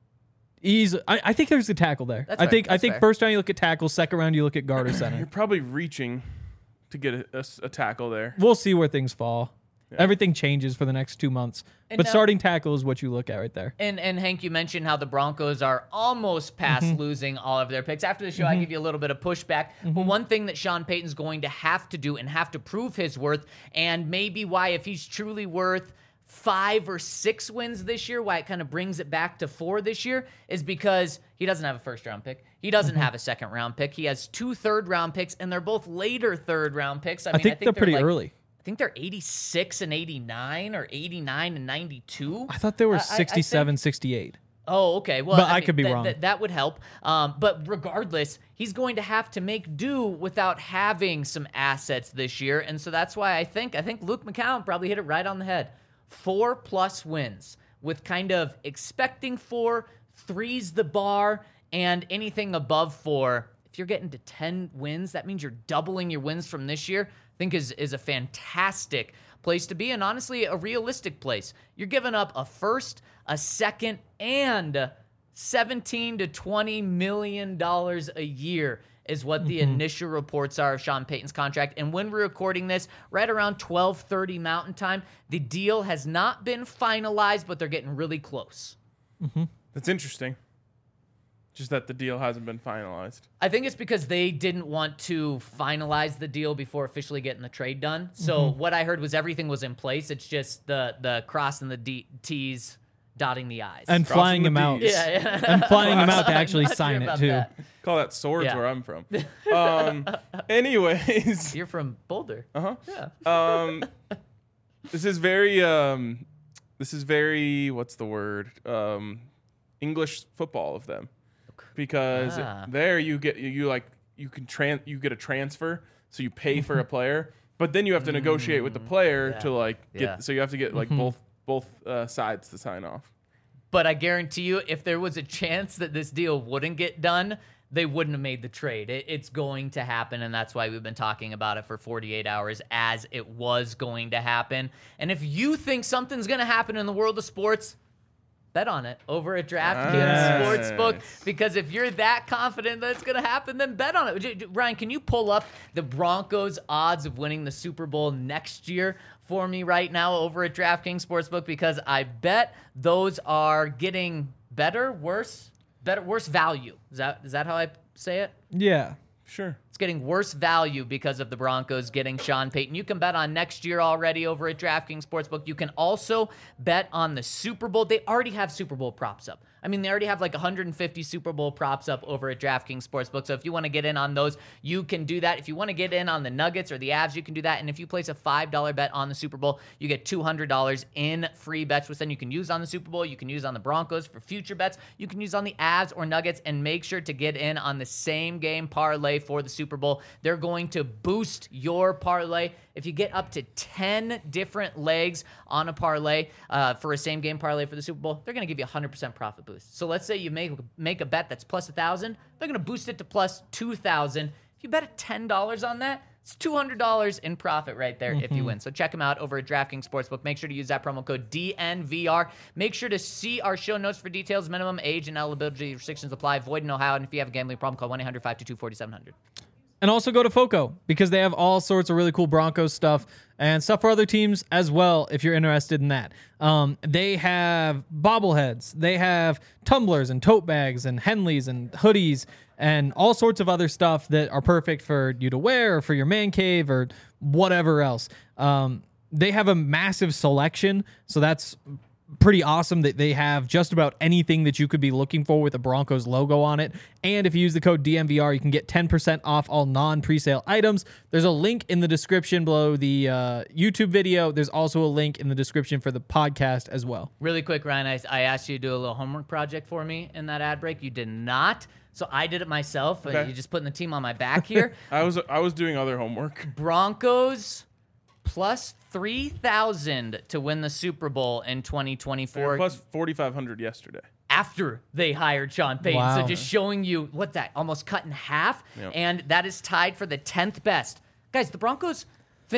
Easy. I, I think there's a tackle there. That's I fair. think I That's think fair. first round you look at tackle, second round you look at guard or You're center. probably reaching to get a, a s- a tackle there. We'll see where things fall. Everything changes for the next two months. And but now- starting tackle is what you look at right there. And and Hank, you mentioned how the Broncos are almost past Mm-hmm. losing all of their picks. After the show, I give you a little bit of pushback. Mm-hmm. But one thing that Sean Payton's going to have to do and have to prove his worth, and maybe why, if he's truly worth five or six wins this year, why it kind of brings it back to four this year, is because he doesn't have a first round pick. He doesn't Mm-hmm. have a second round pick. He has two third round picks, and they're both later third round picks. I, I mean, think they're pretty like- early. I think they're eighty-six and eighty-nine or eighty-nine and ninety-two. I thought they were I- I- I think- sixty-seven, sixty-eight. Oh, okay. Well, But I mean, could be that- wrong. That, that would help. Um, but regardless, he's going to have to make do without having some assets this year, and so that's why I think I think Luke McCown probably hit it right on the head. Four plus wins with kind of expecting four, three's the bar, and anything above four. If you're getting to ten wins, that means you're doubling your wins from this year. I think is is a fantastic place to be, and honestly, a realistic place. You're giving up a first, a second, and seventeen to twenty million dollars a year is what the initial reports are of Sean Payton's contract. And when we're recording this, right around twelve thirty Mountain Time, the deal has not been finalized, but they're getting really close. That's interesting. Just that the deal hasn't been finalized. I think it's because they didn't want to finalize the deal before officially getting the trade done. So what I heard was everything was in place. It's just the the crossing the D- T's, dotting the I's. And Crossing flying the him out. Ds. yeah, yeah. And flying him out to I'm actually not sign sure it about too. that. Call that swords Yeah. where I'm from. Um, anyways, You're from Boulder. uh-huh. Yeah. Um, this is very um, this is very what's the word? Um, English football of them, because Ah. there you get you, you like you can tran you get a transfer, so you pay for a player, but then you have to negotiate with the player yeah. to like get. Yeah. So you have to get like both both uh, sides to sign off. But I guarantee you, if there was a chance that this deal wouldn't get done, they wouldn't have made the trade. It, it's going to happen, and that's why we've been talking about it for forty-eight hours as it was going to happen. And if you think something's going to happen in the world of sports, bet on it over at DraftKings Nice. Sportsbook, because if you're that confident that it's going to happen, then bet on it. J- J- Ryan, can you pull up the Broncos' odds of winning the Super Bowl next year for me right now over at DraftKings Sportsbook? Because I bet those are getting better, worse, better, worse value. Is that is that how I say it? Yeah. Sure. It's getting worse value because of the Broncos getting Sean Payton. You can bet on next year already over at DraftKings Sportsbook. You can also bet on the Super Bowl. They already have Super Bowl props up. I mean, they already have like one hundred fifty Super Bowl props up over at DraftKings Sportsbook. So if you want to get in on those, you can do that. If you want to get in on the Nuggets or the Avs, you can do that. And if you place a five dollar bet on the Super Bowl, you get two hundred dollars in free bets, which then you can use on the Super Bowl. You can use on the Broncos for future bets. You can use on the Avs or Nuggets, and make sure to get in on the same game parlay for the Super Bowl. They're going to boost your parlay. If you get up to ten different legs on a parlay uh, for a same game parlay for the Super Bowl, they're going to give you a one hundred percent profit boost. So let's say you make, make a bet that's plus one thousand dollars. They're going to boost it to plus two thousand dollars. If you bet at ten dollars on that, it's two hundred dollars in profit right there if you win. So check them out over at DraftKings Sportsbook. Make sure to use that promo code D N V R. Make sure to see our show notes for details. Minimum age and eligibility restrictions apply. Void in Ohio. And if you have a gambling problem, call one eight hundred five two two four seven zero zero. And also go to FOCO because they have all sorts of really cool Broncos stuff and stuff for other teams as well if you're interested in that. Um, they have bobbleheads. They have tumblers and tote bags and Henleys and hoodies and all sorts of other stuff that are perfect for you to wear or for your man cave or whatever else. Um, they have a massive selection, so that's pretty awesome that they have just about anything that you could be looking for with the Broncos logo on it. And if you use the code D N V R, you can get ten percent off all non-presale items. There's a link in the description below the uh, YouTube video. There's also a link in the description for the podcast as well. Really quick, Ryan, I, I asked you to do a little homework project for me in that ad break. You did not. So I did it myself. Okay. You're just putting the team on my back here. I was I was doing other homework. Broncos plus three thousand to win the Super Bowl in twenty twenty-four. Plus forty-five hundred yesterday. After they hired Sean Payton. Wow. So just showing you what that almost cut in half. Yep. And that is tied for the tenth best. Guys, the Broncos finished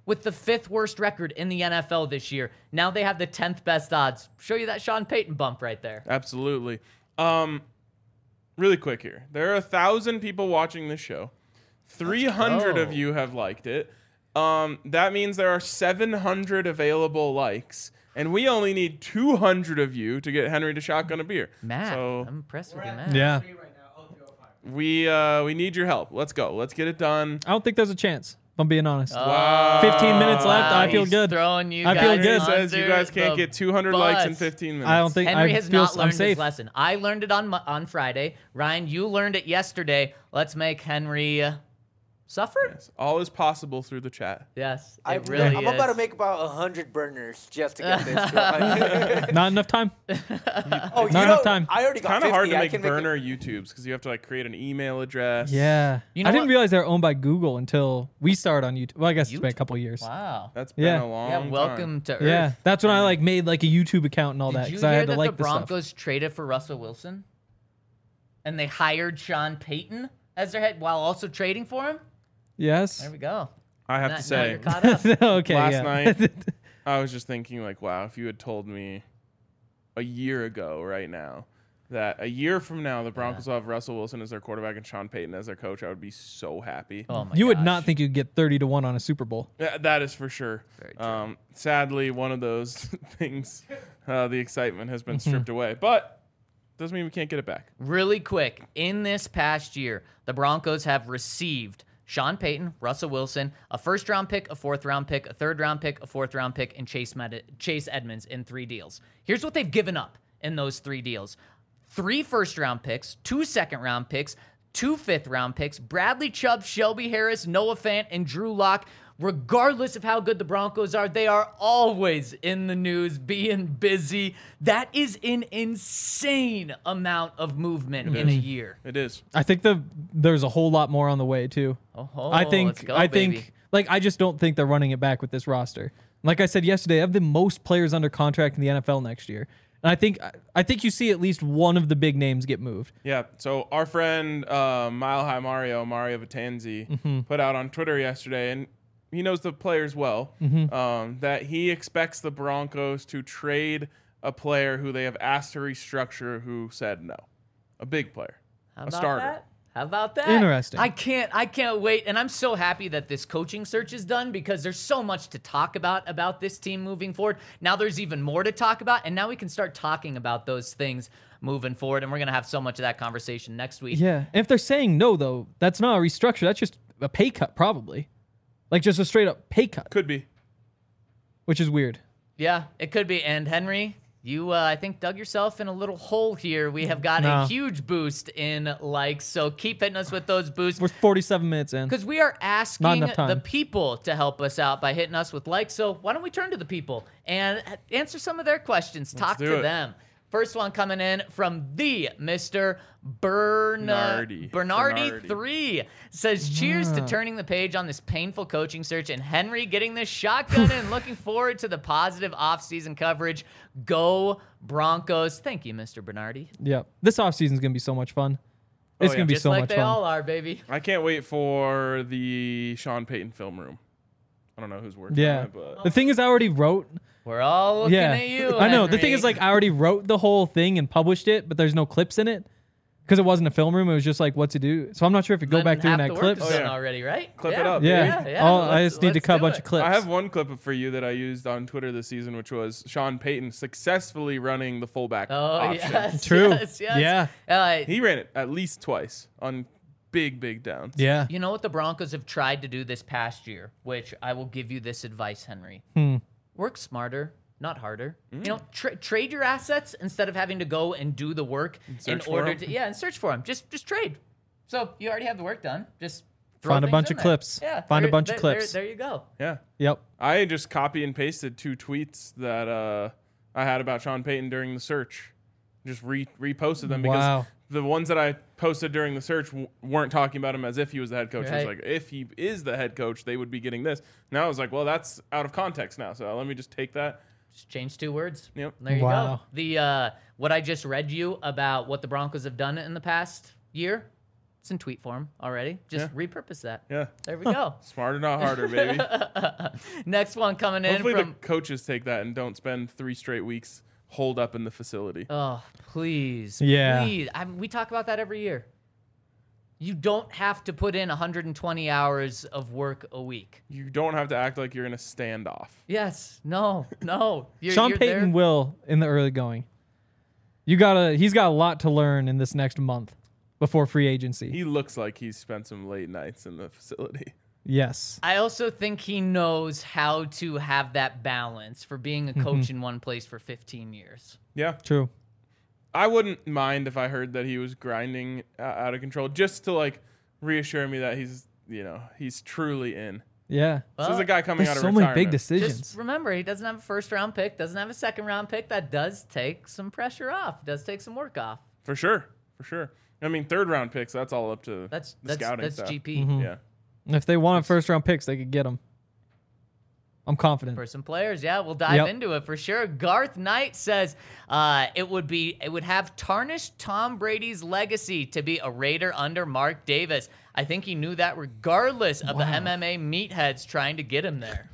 with the fifth worst record in the N F L this year. Now they have the tenth best odds. Show you that Sean Payton bump right there. Absolutely. Um, really quick here. There are a thousand people watching this show. three hundred go. of you have liked it. Um, that means there are seven hundred available likes, and we only need two hundred of you to get Henry to shotgun a beer. Matt, So I'm impressed with your math. Yeah. we uh, we need your help. Let's go. Let's get it done. I don't think there's a chance, if I'm being honest. Wow. fifteen minutes left. I feel He's good. Throwing you I feel guys good. Henry says you under guys can't the get two hundred likes in bus. fifteen minutes. I don't think Henry I has feel not I'm learned safe. his lesson. I learned it on Mo- on Friday. Ryan, you learned it yesterday. Let's make Henry uh, suffer. Yes. All is possible through the chat. Yes, it I, really I'm is. about to make about a hundred burners just to get this going. Not enough time. oh, you Not know, enough time. I already got Kind of fifty. hard to I make can make it- burner YouTubes because you have to like create an email address. Yeah. You know I didn't what? realize they were owned by Google until we started on YouTube. Well, I guess it's been a YouTube? couple of years. Wow. That's been Yeah. a long Yeah, time. welcome to Earth. Yeah. That's when I like made like a YouTube account and all Did that you because I hear had to that like the the stuff. Broncos traded for Russell Wilson? And they hired Sean Payton as their head while also trading for him? Yes. There we go. I have Now- to now say, you're caught up. okay. last yeah. night I was just thinking like, wow, if you had told me a year ago right now that a year from now the Broncos will have Russell Wilson as their quarterback and Sean Payton as their coach, I would be so happy. Oh my you would gosh. not think you'd get thirty to one on a Super Bowl. Yeah, that is for sure. Very true. Um, sadly, one of those things, uh, the excitement has Mm-hmm. been stripped away, but doesn't mean we can't get it back. Really quick, in this past year, the Broncos have received Sean Payton, Russell Wilson, a first round pick, a fourth round pick, a third round pick, a fourth round pick, and Chase Med- Chase Edmonds in three deals. Here's what they've given up in those three deals. Three first round picks, two second round picks, two fifth round picks, Bradley Chubb, Shelby Harris, Noah Fant, and Drew Lock. Regardless of how good the Broncos are, they are always in the news, being busy. That is an insane amount of movement in a year. It is. I think the there's a whole lot more on the way too. Oh, I think let's go, I baby. think like I just don't think they're running it back with this roster. Like I said yesterday, I have the most players under contract in the N F L next year. And I think I think you see at least one of the big names get moved. Yeah. So our friend uh, Mile High Mario, Mario Vitanzi, Mm-hmm. put out on Twitter yesterday, and he knows the players well, Mm-hmm. um, that he expects the Broncos to trade a player who they have asked to restructure who said no. A big player. How a about starter. that? How about that? Interesting. I can't I can't wait, and I'm so happy that this coaching search is done because there's so much to talk about about this team moving forward. Now there's even more to talk about, and now we can start talking about those things moving forward, and we're gonna have so much of that conversation next week. Yeah. And if they're saying no though, that's not a restructure. That's just a pay cut probably. Like just a straight up pay cut, Could be. which is weird. Yeah, it could be. And Henry, you, uh, I think, dug yourself in a little hole here. We have got No. a huge boost in likes, so keep hitting us with those boosts. We're forty-seven minutes in. Because we are Not asking enough time. the people to help us out by hitting us with likes. So why don't we turn to the people and answer some of their questions? Talk do to it. them. First one coming in from the Mister Bern- Bernardi. Bernardi Bernardi. three says, cheers to turning the page on this painful coaching search and Henry getting this shotgun and looking forward to the positive offseason coverage. Go Broncos. Thank you, Mister Bernardi. Yep. This offseason is gonna be so much fun. It's Oh, gonna yeah. be Just so like much they fun. all are, baby. I can't wait for the Sean Payton film room. I don't know who's working Yeah. on it, but The thing is, I already wrote. We're all looking yeah. at you. I know. The Henry. thing is, like, I already wrote the whole thing and published it, but there's no clips in it because it wasn't a film room. It was just like what to do. So I'm not sure if you go Then back through half and the add work clips. is Oh, done yeah. already, right? Clip yeah. it up, Yeah. yeah, yeah. All, I Let's- just need to let's cut a do bunch it. of clips. I have one clip for you that I used on Twitter this season, which was Sean Payton successfully running the fullback Oh option. yes, True. yes, yes. Yeah. Uh, He ran it at least twice on big, big downs. Yeah. you know what the Broncos have tried to do this past year, which I will give you this advice, Henry. Hmm. Work smarter, not harder. Mm. You know, tra- trade your assets instead of having to go and do the work in search for order 'em. to yeah, and search for them. Just just trade. So you already have the work done. Just throw Find a things bunch in of there. clips. Yeah, Find a there- bunch of there- clips. There, there you go. Yeah. Yep. I just copy and pasted two tweets that uh, I had about Sean Payton during the search. Just re- reposted them because Wow. the ones that I posted during the search w- weren't talking about him as if he was the head coach. It was Right. like, if he is the head coach, they would be getting this. Now I was like, well, that's out of context now. So let me just take that. Just change two words. Yep. There you go. Wow. The uh, what I just read you about what the Broncos have done in the past year, It's in tweet form already. Just Yeah. repurpose that. Yeah. There we go. Smarter, not harder, baby. Next one coming in Hopefully from. the coaches take that and don't spend three straight weeks holed up in the facility. Oh, please. Yeah. Please. I mean, we talk about that every year. You don't have to put in one hundred twenty hours of work a week. You don't have to act like you're in a standoff. Yes. No. No. You're, Sean you're Payton there. will in the early going. You gotta. He's got a lot to learn in this next month before free agency. He looks like he's spent some late nights in the facility. Yes. I also think he knows how to have that balance for being a coach in one place for fifteen years. Yeah. True. I wouldn't mind if I heard that he was grinding uh, out of control, just to like reassure me that he's, you know, he's truly in. Yeah. This is a guy coming There's out of so retirement. many big decisions. Just remember, he doesn't have a first round pick, doesn't have a second round pick. That does take some pressure off, does take some work off. For sure. For sure. I mean, third round picks, that's all up to That's the that's scouting that's staff. G P. Mm-hmm. Yeah. If they wanted first round picks, they could get them. I'm confident. For some players, yeah, we'll dive Yep. into it for sure. Garth Knight says uh, it would be it would have tarnished Tom Brady's legacy to be a Raider under Mark Davis. I think he knew that regardless of the Wow. M M A meatheads trying to get him there.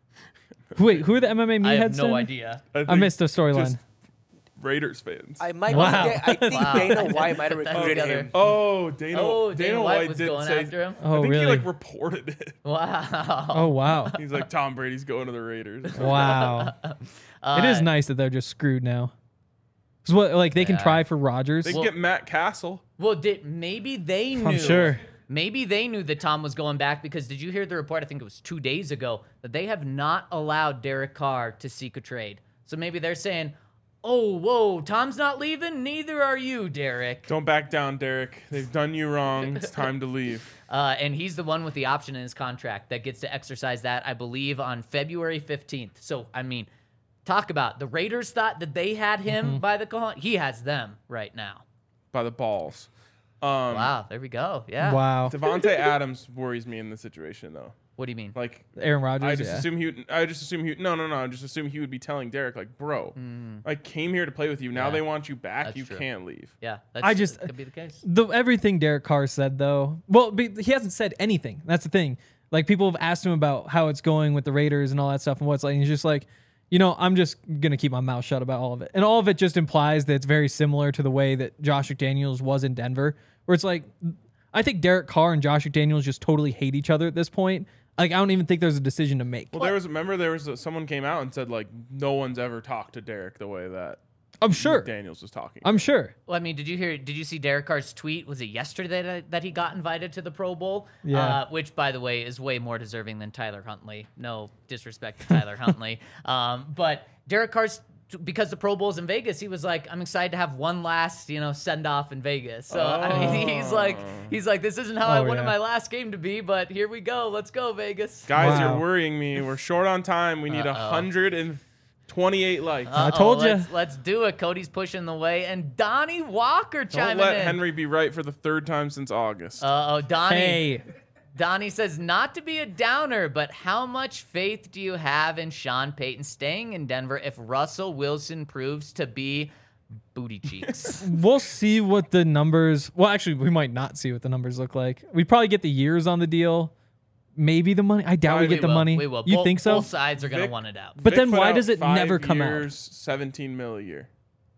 Wait, who are the M M A I meatheads? have no then? idea. I think missed the just storyline. Raiders fans. I might. Wow. Get, I think Wow. Dana White might have Put that recruited together. him. oh, Dana. Oh, Dana, Dana White, White was did going say, after him? I Oh, think really? he like reported it. Wow. Oh wow. He's like, Tom Brady's going to the Raiders. Wow. Uh, it is nice that they're just screwed now. 'Cause what, like they can Yeah. try for Rodgers. They can get Matt Castle. Well, did maybe they knew? I'm sure. Maybe they knew that Tom was going back because did you hear the report? I think it was two days ago that they have not allowed Derek Carr to seek a trade. So maybe they're saying, "Oh, whoa, Tom's not leaving. Neither are you, Derek." Don't back down, Derek. They've done you wrong. It's time to leave. Uh, and he's the one with the option in his contract that gets to exercise that, I believe, on February fifteenth. So I mean, talk about the Raiders thought that they had him Mm-hmm. by the call. He has them right now. By the balls. Um, Wow, there we go. Yeah. Wow. Devontae Adams worries me in this situation, though. What do you mean? Like, Aaron Rodgers. I just yeah. assume he. Would, I just assume he. No, no, no. I just assume he would be telling Derek, like, bro, I came here to play with you. Now Yeah. they want you back. That's you true. can't leave. Yeah, that's, I just- that could be the case. the everything Derek Carr said though. Well, be- he hasn't said anything. That's the thing. Like people have asked him about how it's going with the Raiders and all that stuff and what's like. And he's just like, you know, I'm just gonna keep my mouth shut about all of it. And all of it just implies that it's very similar to the way that Josh McDaniels was in Denver, where it's like, I think Derek Carr and Josh McDaniels just totally hate each other at this point. Like I don't even think there's a decision to make. Well, there was. Remember, there was a, someone came out and said like, no one's ever talked to Derek the way that I'm sure. Daniels was talking. I'm sure. Well, I mean, did you hear? Did you see Derek Carr's tweet? Was it yesterday that, that he got invited to the Pro Bowl? Yeah. Uh, which, by the way, is way more deserving than Tyler Huntley. No disrespect to Tyler Huntley, um, but Derek Carr's because the Pro Bowl's in Vegas. He was like, "I'm excited to have one last, you know, send off in Vegas." So I mean, he's like, he's like, "This isn't how I Oh, wanted yeah. my last game to be, but here we go. Let's go, Vegas." Guys, Wow. you're worrying me. We're short on time. We need a Uh-oh. hundred and twenty-eight likes. I told ya. Let's, let's do it. Cody's pushing the way, and Donnie Walker Don't chiming let in. Henry be right for the third time since August. Uh oh, Donnie. Hey, Donnie says, not to be a downer, but how much faith do you have in Sean Payton staying in Denver if Russell Wilson proves to be booty cheeks? we'll see what the numbers. Well, actually, we might not see what the numbers look like. We probably get the years on the deal. Maybe the money. I doubt we We get the will, money. We will. You Both- think so? Both sides are going to Vic- want it out. But Vic then put why out does it five never come out? years, seventeen mil a year.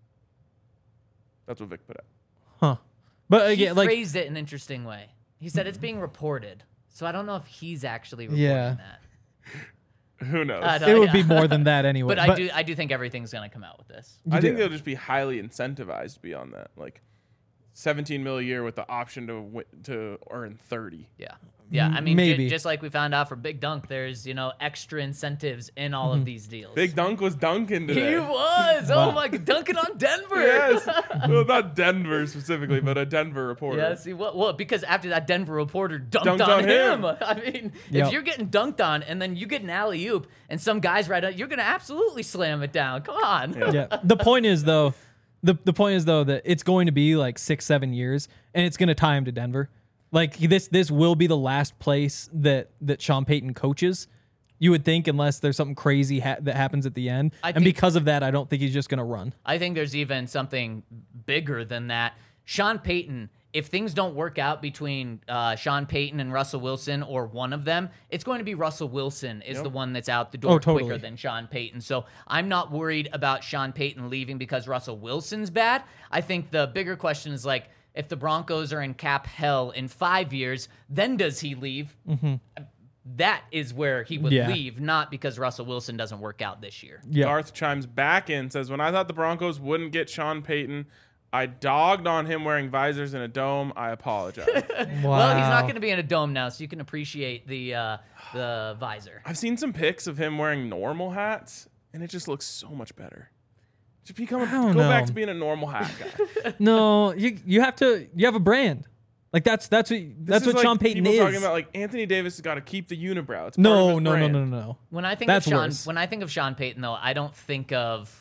That's what Vic put out. Huh? But He again, like phrased it in an interesting way. He said it's being reported. So I don't know if he's actually reporting Yeah. that. Who knows? I don't- it would yeah. be more than that anyway. But, I do I do think everything's going to come out with this. You I think do. they'll just be highly incentivized beyond that. Like seventeen mil a year with the option to wi- to earn thirty. Yeah. Yeah, I mean, ju- Maybe. just like we found out for Big Dunk, there's, you know, extra incentives in all of these deals. Big Dunk was dunking today. He was. Oh my god, dunking on Denver. Yes. Well, not Denver specifically, but a Denver reporter. Yeah, see what? Well, because after that Denver reporter dunked, Dunked on, on him. him. I mean, Yep. if you're getting dunked on and then you get an alley oop and some guys right up, you're gonna absolutely slam it down. Come on. yeah. The point is though, the the point is though that it's going to be like six seven years, and it's going to tie him to Denver. Like this this will be the last place that that Sean Payton coaches. You would think, unless there's something crazy ha- that happens at the end, I and think- because of that, I don't think he's just going to run. I think there's even something bigger than that. Sean Payton if things don't work out between uh, Sean Payton and Russell Wilson or one of them, it's going to be Russell Wilson is Yep. the one that's out the door Oh, totally. quicker than Sean Payton. So I'm not worried about Sean Payton leaving because Russell Wilson's bad. I think the bigger question is like, if the Broncos are in cap hell in five years, then does he leave? Mm-hmm. That is where he would Yeah. leave, not because Russell Wilson doesn't work out this year. Yeah. Garth chimes back in, says, when I thought the Broncos wouldn't get Sean Payton, I dogged on him wearing visors in a dome. I apologize. Wow. Well, he's not going to be in a dome now, so you can appreciate the uh, the visor. I've seen some pics of him wearing normal hats, and it just looks so much better. Just become a, I don't go back know. to being a normal hat guy. No, you you have to. You have a brand. Like that's that's what that's This is what like Sean Payton people is. talking about like Anthony Davis has got to keep the unibrow. It's part of no, his no, no, brand. no, no, no. When I think That's of Sean, worse. when I think of Sean Payton, though, I don't think of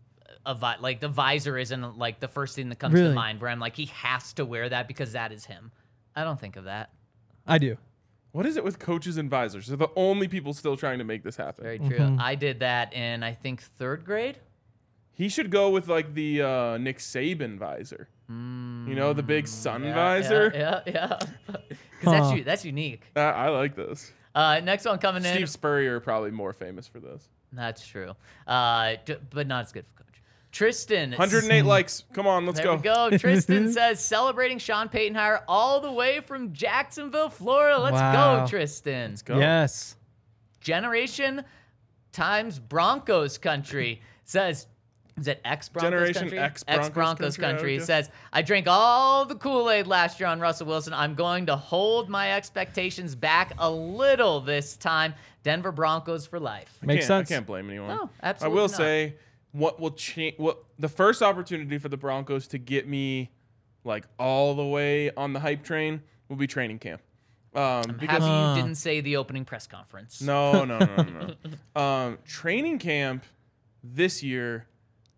a vi- like the visor isn't like the first thing that comes Really? to mind. Where I'm like, he has to wear that because that is him. I don't think of that. I do. What is it with coaches and visors? They're the only people still trying to make this happen. Very true. Mm-hmm. I did that in I think third grade. He should go with like the uh, Nick Saban visor. You know, the big sun Yeah, visor. Yeah, yeah. yeah. Because Huh. that's u- that's unique. Uh, I like this. Uh, next one coming in. Steve Spurrier probably more famous for this. That's true. Uh, d- but not as good for coach. Tristan. one hundred eight likes. Come on, let's There go. we go. Tristan says celebrating Sean Payton hire all the way from Jacksonville, Florida. Let's Wow. go, Tristan. Go. Yes. Generation times Broncos country says. Is it X Broncos Generation country? X Broncos Broncos country, I country would guess. says, I drank all the Kool-Aid last year on Russell Wilson. I'm going to hold my expectations back a little this time. Denver Broncos for life. I Makes can't- sense. I can't blame anyone. No, I absolutely will not. say what will change. What the first opportunity for the Broncos to get me like all the way on the hype train will be training camp. Um, because Happy Uh. you didn't say the opening press conference. no, no, no, no, no. um, training camp this year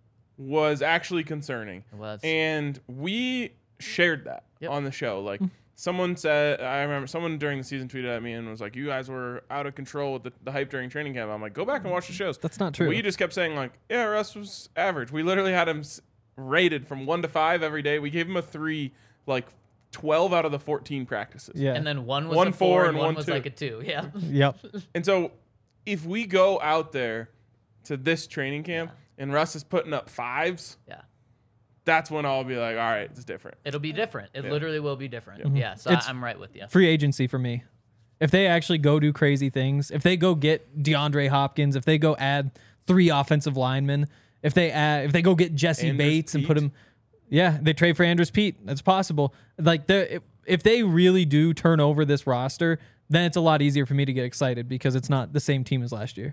was actually concerning. It was. And we shared that Yep. on the show. Like someone said, I remember someone during the season tweeted at me and was like, "You guys were out of control with the, the hype during training camp." I'm like, "Go back and watch the shows." That's not true. We just kept saying like, "Yeah, Russ was average." We literally had him s- rated from one to five every day. We gave him a three, like twelve out of the fourteen practices. Yeah. And then one was One a four, four and and one one was two. like a two. Yeah. Yep. And so, if we go out there to this training camp and Russ is putting up fives, Yeah. that's when I'll be like, "All right, it's different." It'll be different. It Yeah. literally will be different. Yeah. So It's- I, I'm right with you. Free agency for me. If they actually go do crazy things, if they go get DeAndre Hopkins, if they go add three offensive linemen, if they add, if they go get Jesse Andrews Bates and put Pete. him, yeah, they trade for Andrews Pete. That's possible. Like the if, if they really do turn over this roster, then it's a lot easier for me to get excited because it's not the same team as last year.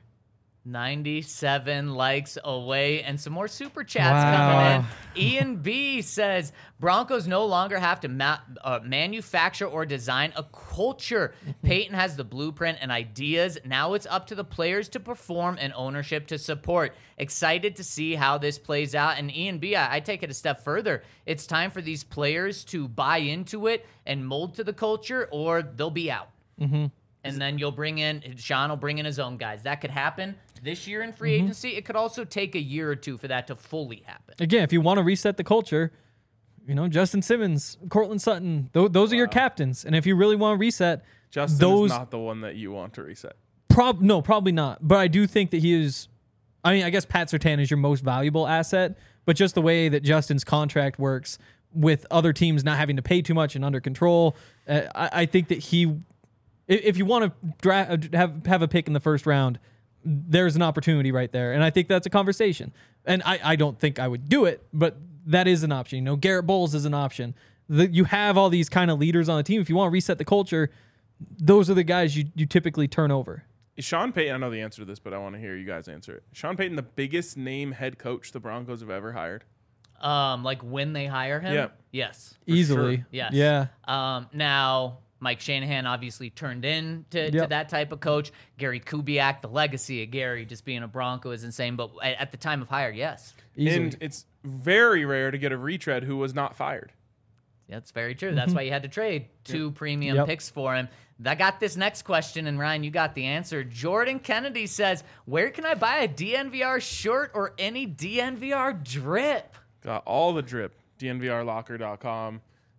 ninety-seven likes away and some more super chats Wow. coming in. Ian B says Broncos no longer have to ma- uh, manufacture or design a culture. Peyton has the blueprint and ideas. Now it's up to the players to perform and ownership to support. Excited to see how this plays out. And Ian B, I, I take it a step further. It's time for these players to buy into it and mold to the culture, or they'll be out. Mm-hmm. And then you'll bring in, Sean will bring in his own guys. That could happen this year in free Mm-hmm. agency. It could also take a year or two for that to fully happen. Again, if you want to reset the culture, you know, Justin Simmons, Cortland Sutton, th- those are your captains. And if you really want to reset, Justin those is not the one that you want to reset. Prob no, probably not. But I do think that he is. I mean, I guess Pat Surtain is your most valuable asset, but just the way that Justin's contract works with other teams not having to pay too much and under control, uh, I, I think that he, if, if you want to dra- have have a pick in the first round, there's an opportunity right there, and I think that's a conversation. And I, I don't think I would do it, but that is an option. You know, Garrett Bowles is an option. The, you have all these kind of leaders on the team. If you want to reset the culture, those are the guys you, you typically turn over. Is Sean Payton, I know the answer to this, but I want to hear you guys answer it. Is Sean Payton, the biggest name head coach the Broncos have ever hired? Um, like when they hire him? Yeah. Yes. Easily. sure. Yes. Yeah. Um, now, Mike Shanahan obviously turned in to, to Yep. that type of coach. Gary Kubiak, the legacy of Gary just being a Bronco is insane. But at, at the time of hire, yes. Easily. And it's very rare to get a retread who was not fired. That's very true. That's why you had to trade two premium Yep. picks for him. I got this next question, and Ryan, you got the answer. Jordan Kennedy says, where can I buy a D N V R shirt or any D N V R drip? Got all the drip, D N V R locker dot com.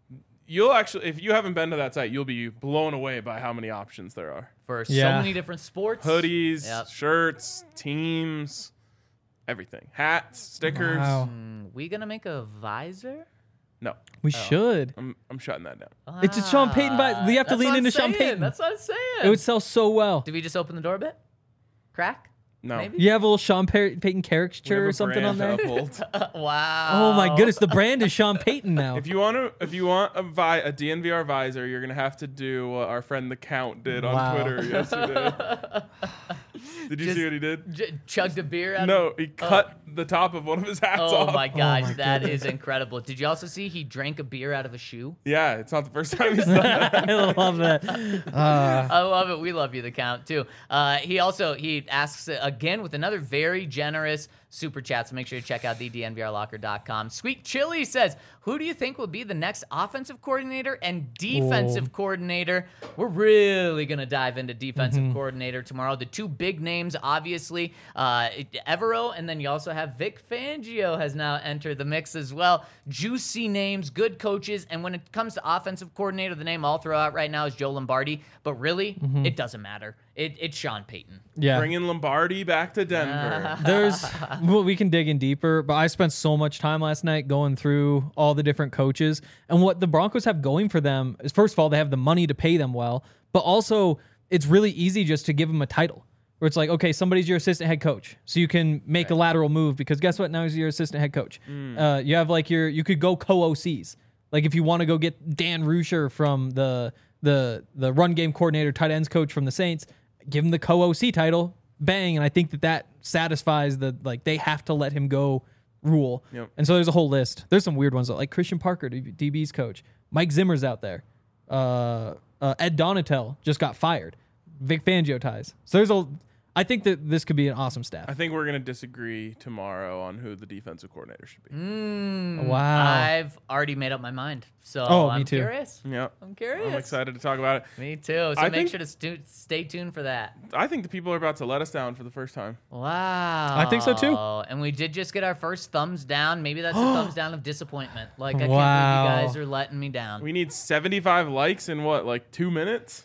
you'll actually, if you haven't been to that site, you'll be blown away by how many options there are. For Yeah. so many different sports. Hoodies, Yep. shirts, teams, everything. Hats, stickers. Wow. Mm, we gonna make a visor? No, We should. I'm I'm shutting that down. It's a Sean Payton vi- we have to That's lean what I'm into Sean saying. Payton. That's what I'm saying. It would sell so well. Did we just open the door a bit? Crack? No. Maybe? You have a little Sean Pay- Payton We caricature have or a something on brand there. to uphold. Wow. Oh my goodness, the brand is Sean Payton now. If you want to, if you want a vi- a D N V R visor, you're gonna have to do what our friend the Count did on Wow. Twitter yesterday. Did you Just- see what he did? J- chugged a beer out No, of he cut the top of one of his hats Oh off. my gosh, my that is incredible. Did you also see he drank a beer out of a shoe? Yeah, it's not the first time he's done that. I love that. Uh, I love it. We love you, the Count, too. Uh, he also he asks uh, again with another very generous super chat. So make sure you check out the D N V R locker dot com. Sweet Chili says, "Who do you think will be the next offensive coordinator and defensive Whoa. coordinator?" We're really gonna dive into defensive Mm-hmm. coordinator tomorrow. The two big names, obviously, uh, Evero, and then you also have Vic Fangio has now entered the mix as well. Juicy names, good coaches, and when it comes to offensive coordinator, the name I'll throw out right now is Joe Lombardi. But really, it doesn't matter. It, it's Sean Payton. yeah. Bringing Lombardi back to Denver. There's well, we can dig in deeper, but I spent so much time last night going through all the different coaches, and what the Broncos have going for them is, first of all, they have the money to pay them well, but also it's really easy just to give them a title where it's like, okay, somebody's your assistant head coach, so you can make a lateral move because guess what? Now he's your assistant head coach. Uh, you have like your you could go co-O Cs. Like if you want to go get Dan Rusher from the the the run game coordinator, tight ends coach from the Saints, give him the co-O C title, bang, and I think that that satisfies the like they have to let him go rule. Yep. And so there's a whole list. There's some weird ones like Christian Parker, D B's coach, Mike Zimmer's out there, uh, uh, Ed Donatel just got fired, Vic Fangio ties. So there's a. I think that this could be an awesome staff. I think we're gonna disagree tomorrow on who the defensive coordinator should be. Mm, Wow. I've already made up my mind. So Oh, me I'm too. curious. Yep. I'm curious. I'm excited to talk about it. Me too. So I make think- sure to stu- stay tuned for that. I think the people are about to let us down for the first time. Wow. I think so, too. And we did just get our first thumbs down. Maybe that's a thumbs down of disappointment. Like, I Wow. can't believe you guys are letting me down. We need seventy-five likes in what, like two minutes?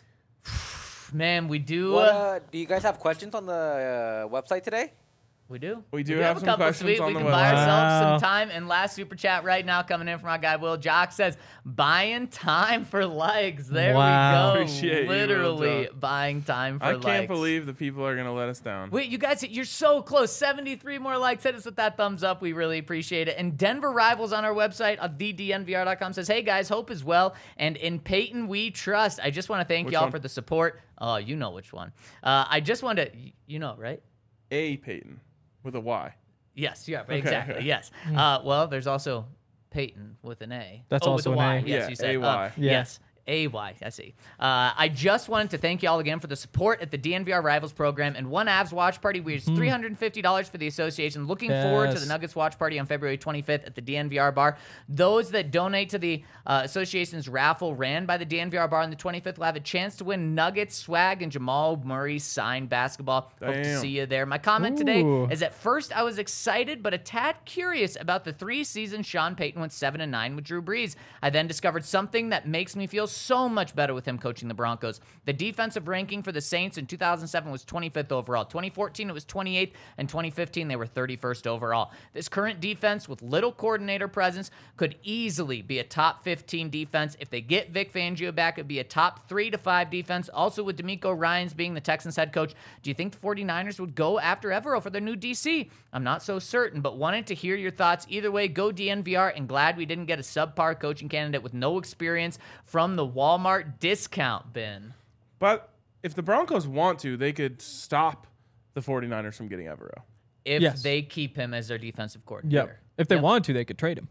Man, we do. What, uh, uh, do you guys have questions on the uh, website today? We do. We do have, have a some couple questions sweet. on we the can buy website. ourselves Wow. some time. And last super chat right now coming in from our guy Will Jock says, "Buying time for likes." There Wow. we go. Appreciate you, Will Literally Jock. buying time for I likes. can't believe the people are gonna let us down. Wait, you guys, you're so close. seventy-three more likes. Hit us with that thumbs up. We really appreciate it. And Denver Rivals on our website, uh, the D N V R dot com, says, "Hey guys, hope is well. And in Peyton we trust." I just want to thank Which y'all one? for the support. Oh, you know which one. Uh, I just want to, you know, right? A Peyton with a Y. Yes, yeah, Okay, exactly. okay. Yes. Uh, well, there's also Peyton with an A. That's oh, also with a an Y. A. Yes, Yeah, you said. A Y. Uh, Yeah. Yes. A Y, I see. Uh, I just wanted to thank you all again for the support at the D N V R Rivals program and one Avs watch party. We raised three hundred fifty dollars for the association. Looking forward to Yes. the Nuggets watch party on February twenty-fifth at the D N V R bar. Those that donate to the uh, association's raffle ran by the D N V R bar on the twenty-fifth will have a chance to win Nuggets swag and Jamal Murray signed basketball. Hope to Damn. see you there. My comment today Ooh. is at first I was excited but a tad curious about the three seasons Sean Payton went seven and nine with Drew Brees. I then discovered something that makes me feel so much better with him coaching the Broncos. The defensive ranking for the Saints in two thousand seven was twenty-fifth overall. twenty fourteen it was twenty-eighth, and twenty fifteen they were thirty-first overall. This current defense with little coordinator presence could easily be a top fifteen defense. If they get Vic Fangio back, it'd be a top three to five defense. Also with D'Amico Ryans being the Texans head coach, do you think the 49ers would go after Evero for their new D C? I'm not so certain, but wanted to hear your thoughts. Either way, go D N V R, and glad we didn't get a subpar coaching candidate with no experience from the Walmart discount bin. But if the Broncos want to, they could stop the 49ers from getting Evero. If Yes. they keep him as their defensive coordinator. Yep. If they Yep. wanted to, they could trade him.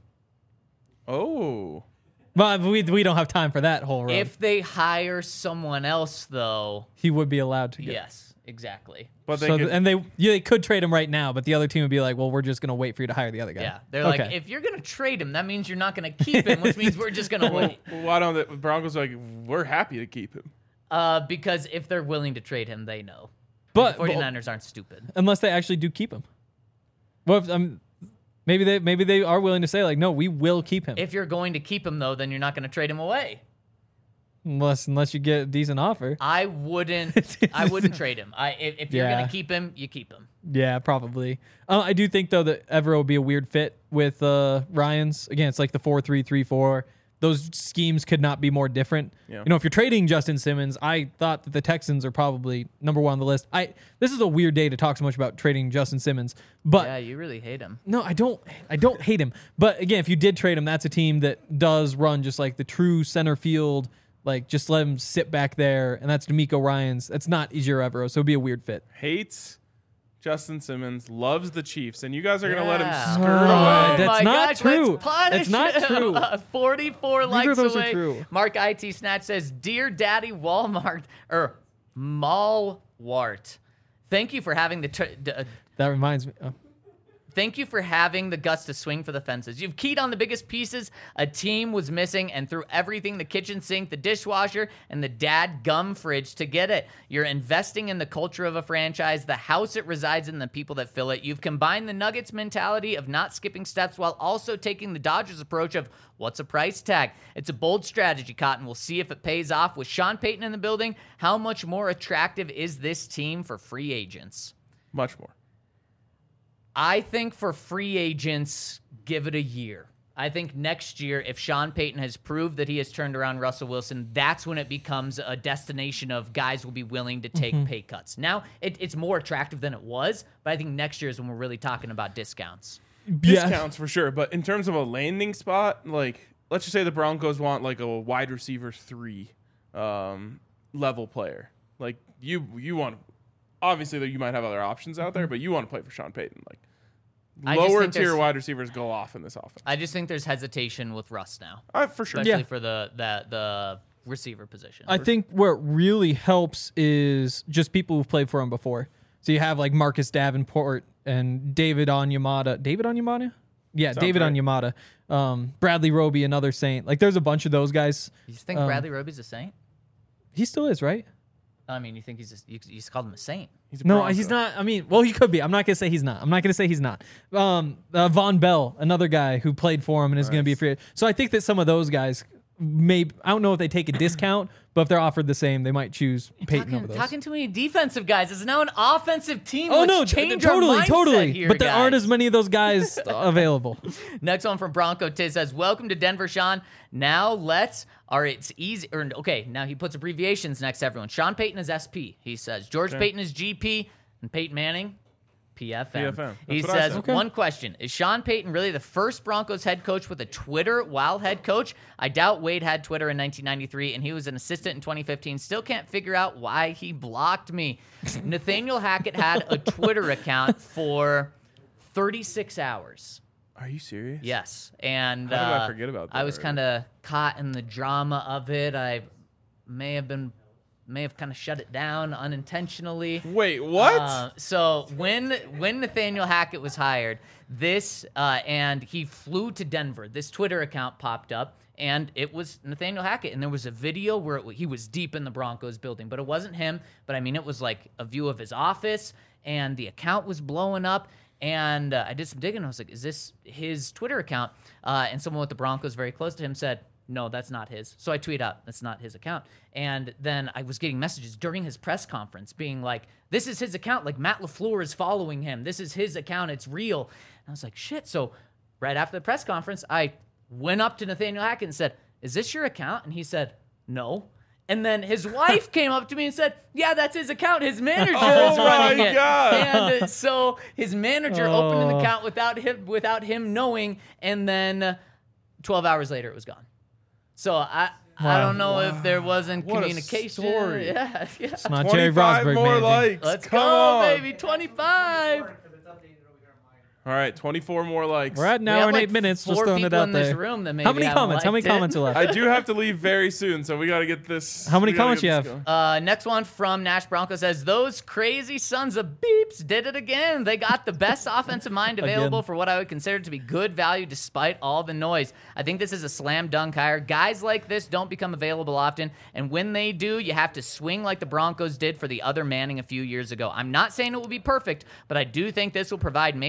Oh. But we we don't have time for that whole run. If they hire someone else, though, he would be allowed to get. yes, exactly. But they So could, th- and they yeah, they could trade him right now, but the other team would be like, well, we're just gonna wait for you to hire the other guy. Yeah, they're okay. like, if you're gonna trade him, that means you're not gonna keep him, which means we're just gonna wait. why don't the Broncos are like, we're happy to keep him. Uh, because if they're willing to trade him, they know. but, the but 49ers aren't stupid. unless they actually do keep him. Well, if, um, Maybe they maybe they are willing to say like, no, we will keep him If you're going to keep him, though, then you're not going to trade him away. unless unless you get a decent offer. I wouldn't. I wouldn't trade him. I if, if you're Yeah. going to keep him, you keep him. Yeah, probably. Uh, I do think though that Evero would be a weird fit with uh, Ryans. Again, it's like the four three three four. Those schemes could not be more different. Yeah. You know, if you're trading Justin Simmons, I thought that the Texans are probably number one on the list. I this is a weird day to talk so much about trading Justin Simmons, but Yeah, you really hate him. no, I don't. I don't hate him. But again, if you did trade him, that's a team that does run just like the true center field. Like just let him sit back there, and that's D'Amico Ryans. That's not Ejiro Evero, so it'd be a weird fit. Hates Justin Simmons, loves the Chiefs, and you guys are gonna let him Yeah. skirt Oh, away. that's my not gosh, true. let's punish That's not him. true. forty-four Neither likes of those are away. true. Mark I T Snatch says, "Dear Daddy Walmart or Malwart, thank you for having the tr- d- uh, That reminds me. Oh. Thank you for having the guts to swing for the fences. You've keyed on the biggest pieces a team was missing and threw everything, the kitchen sink, the dishwasher, and the dad gum fridge to get it. You're investing in the culture of a franchise, the house it resides in, the people that fill it. You've combined the Nuggets mentality of not skipping steps while also taking the Dodgers approach of what's a price tag. It's a bold strategy, Cotton. We'll see if it pays off. With Sean Payton in the building, how much more attractive is this team for free agents? Much more. I think for free agents, give it a year. I think next year, if Sean Payton has proved that he has turned around Russell Wilson, that's when it becomes a destination of guys will be willing to take Mm-hmm. pay cuts. Now, it, it's more attractive than it was, but I think next year is when we're really talking about discounts. Yeah. Discounts for sure, but in terms of a landing spot, like let's just say the Broncos want like a wide receiver three um, level player. Like you, you want obviously that you might have other options out there, but you want to play for Sean Payton. Like I just lower think tier there's- wide receivers go off in this offense. I just think there's hesitation with Russ now, Uh, for sure. especially Yeah. for the, the the receiver position. I think where it really helps is just people who've played for him before. So you have like Marcus Davenport and David Onyemata. David Onyemata? Yeah, Sounds David right. Onyemata. Um, Bradley Roby, another Saint. Like there's a bunch of those guys. you think um, Bradley Roby's a saint? He still is, right? I mean, you think he's just, you, you just called him a saint? He's a No, Bronco. he's not. I mean, well, he could be. I'm not gonna say he's not. I'm not gonna say he's not. Um, uh, Von Bell, another guy who played for him and is gonna be a Nice. free agent. So I think that some of those guys may. I don't know if they take a discount, but if they're offered the same, they might choose Peyton Talking, over those. talking too many defensive guys. It's now an offensive team. Oh Let's no, t- change totally, our mindset totally. here, but there aren't guys. as many of those guys available. Next one from Bronco Tiz says, "Welcome to Denver, Sean. Now let's, or it's easy, or okay, now he puts abbreviations next to everyone. Sean Payton is S P. He says, George Payton is G P, and Peyton Manning, P F M. P F M. He That's what I says, said. Okay. one question. Is Sean Payton really the first Broncos head coach with a Twitter while head coach? I doubt Wade had Twitter in nineteen ninety-three, and he was an assistant in twenty fifteen. Still can't figure out why he blocked me. Nathaniel Hackett had a Twitter account for thirty-six hours. Are you serious? Yes, and How did I uh, forget about I that was already? kind of caught in the drama of it. I may have been, may have kind of shut it down unintentionally. Wait, what? Uh, so when when Nathaniel Hackett was hired, this uh, and he flew to Denver. This Twitter account popped up, and it was Nathaniel Hackett. And there was a video where it, he was deep in the Broncos building, but it wasn't him. But I mean, it was like a view of his office, and the account was blowing up. And uh, I did some digging. And I was like, "Is this his Twitter account?" Uh, and someone with the Broncos very close to him said, "No, that's not his." So I tweet out, "That's not his account." And then I was getting messages during his press conference being like, "This is his account. Like Matt LaFleur is following him. This is his account. It's real." And I was like, "Shit!" So right after the press conference, I went up to Nathaniel Hackett and said, "Is this your account?" And he said, "No." And then his wife came up to me and said, "Yeah, that's his account. His manager Oh is running my it." God. And uh, so his manager opened an Oh. account without him without him knowing, and then uh, twelve hours later it was gone. So I I Wow. don't know if there wasn't What a communication. story. Yeah, yeah. It's not Jerry twenty-five Rosberg, more man. likes. Let's Come go, on. baby. twenty-five. All right, twenty-four more likes. We're at an We hour have and like eight minutes. four Just throwing it people out in this there. room that maybe How many haven't comments? How many liked it. comments are left? I do have to leave very soon, so we got to get this. How many we gotta comments get you this have? going. Uh, next one from Nash Bronco says, "Those crazy sons of beeps did it again. They got the best offensive mind available Again. for what I would consider to be good value despite all the noise. I think this is a slam dunk hire. Guys like this don't become available often, and when they do, you have to swing like the Broncos did for the other Manning a few years ago. I'm not saying it will be perfect, but I do think this will provide major stability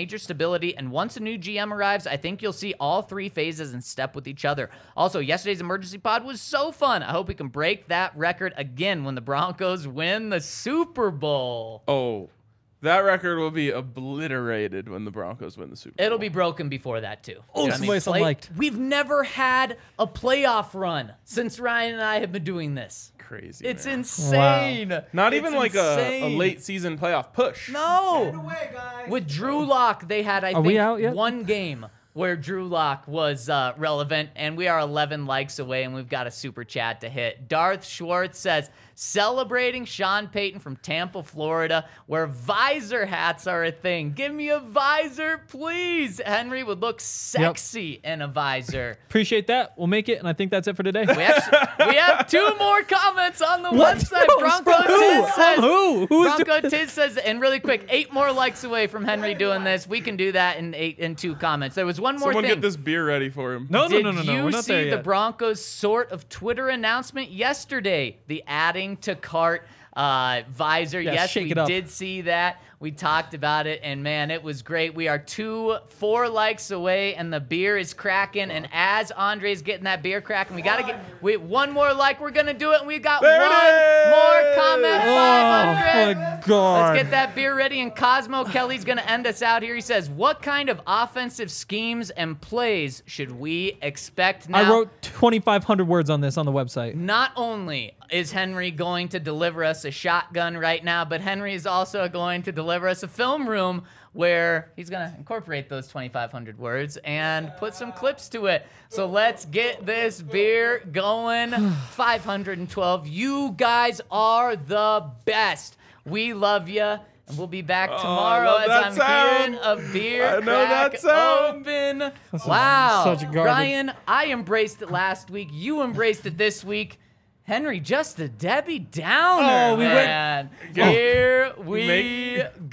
stability. And once a new G M arrives, I think you'll see all three phases in step with each other. Also, yesterday's emergency pod was so fun. I hope we can break that record again when the Broncos win the Super Bowl. Oh, that record will be obliterated when the Broncos win the Super Bowl. It'll be broken before that, too. Oh, You know what I mean? somebody's Play- unliked. We've never had a playoff run since Ryan and I have been doing this. crazy. It's man. insane. Not It's even like a, a insane. late season playoff push. No. With Drew Lock, they had, I Are think, we out yet? one game where Drew Lock was uh, relevant, and we are eleven likes away, and we've got a super chat to hit. Darth Schwartz says, celebrating Sean Payton from Tampa, Florida, where visor hats are a thing. Give me a visor, please. Henry would look sexy in a visor. Appreciate that. We'll make it, and I think that's it for today. We actually, we have two more comments on the What? website. No, Bronco from who? Tiz says, From who? Who's Bronco doing Tiz says, and really quick, eight more likes away from Henry doing this. We can do that in eight in two comments. There was one more Someone thing. get this beer ready for him. No, no, Did no, no, no. you We're not see there the yet. Broncos sort of Twitter announcement yesterday? The adding to cart uh, visor. Yeah, yes, shake we it up. did see that. We talked about it, and man, it was great. We are two, four likes away, and the beer is cracking. And as Andre's getting that beer cracking, we gotta get we one more like. We're gonna do it, and we got There it one more is! comment. Oh, five hundred. my God. Let's get that beer ready. And Cosmo Kelly's going to end us out here. He says, what kind of offensive schemes and plays should we expect now? I wrote twenty-five hundred words on this on the website. Not only is Henry going to deliver us a shotgun right now, but Henry is also going to deliver us a film room where he's going to incorporate those twenty-five hundred words and put some clips to it. So let's get this beer going. five hundred twelve. You guys are the best. We love you. And we'll be back Oh, I tomorrow love as that I'm sound. hearing a beer I know that crack sound. open. Wow. such garbage. Ryan, I embraced it last week. You embraced it this week. Henry, just a Debbie Downer, Oh, we went- man. Go. Here we Make-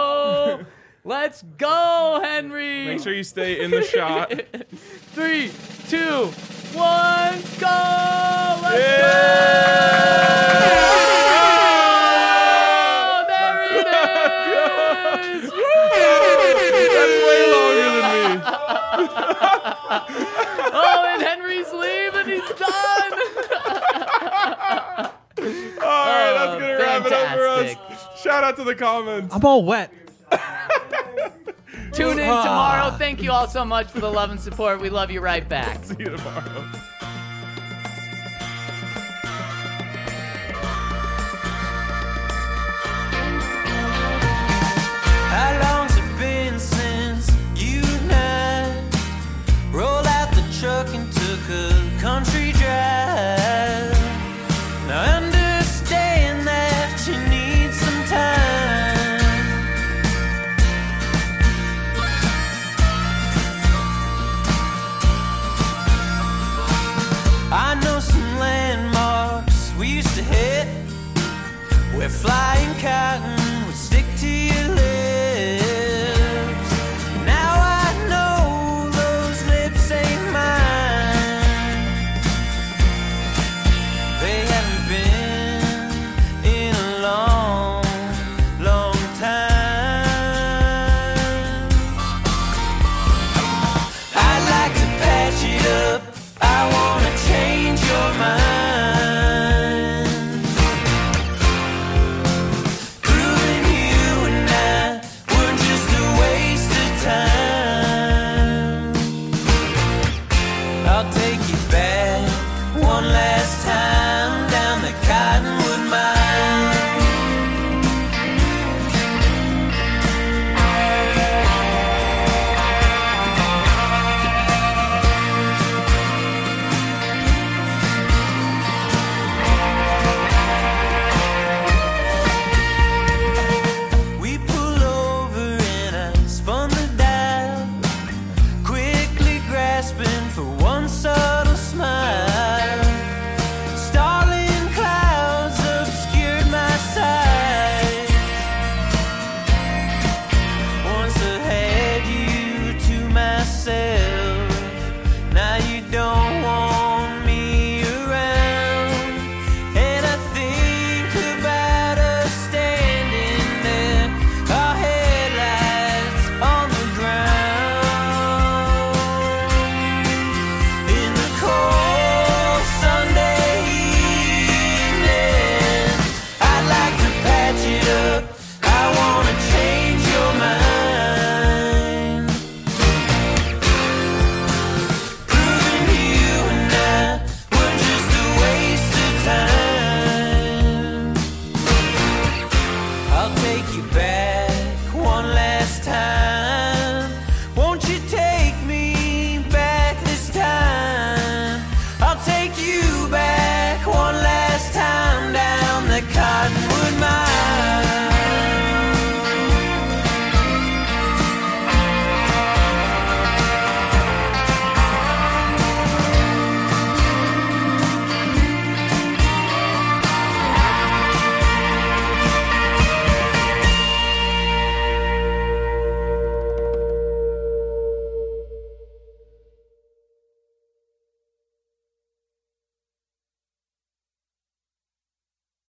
go. Let's go, Henry. Make sure you stay in the shot. Three, two, one, go. Let's Yeah! go. There it is. That's way longer than me. Oh, and Henry's leaving. He's done. All right, that's gonna wrap it up for us. fantastic. Shout out to the comments. I'm all wet. Tune in Ah. tomorrow. Thank you all so much for the love and support. We love you right back. See you tomorrow. How long's it been since you and I rolled out the truck and took a country drive? Now I understand that you need some time. I know some landmarks we used to hit where flying cotton would stick to your lips. Now I know those lips ain't mine. They haven't been in a long, long time. I'd like to patch it up. I wanna change your mind. Proving you and I take you back.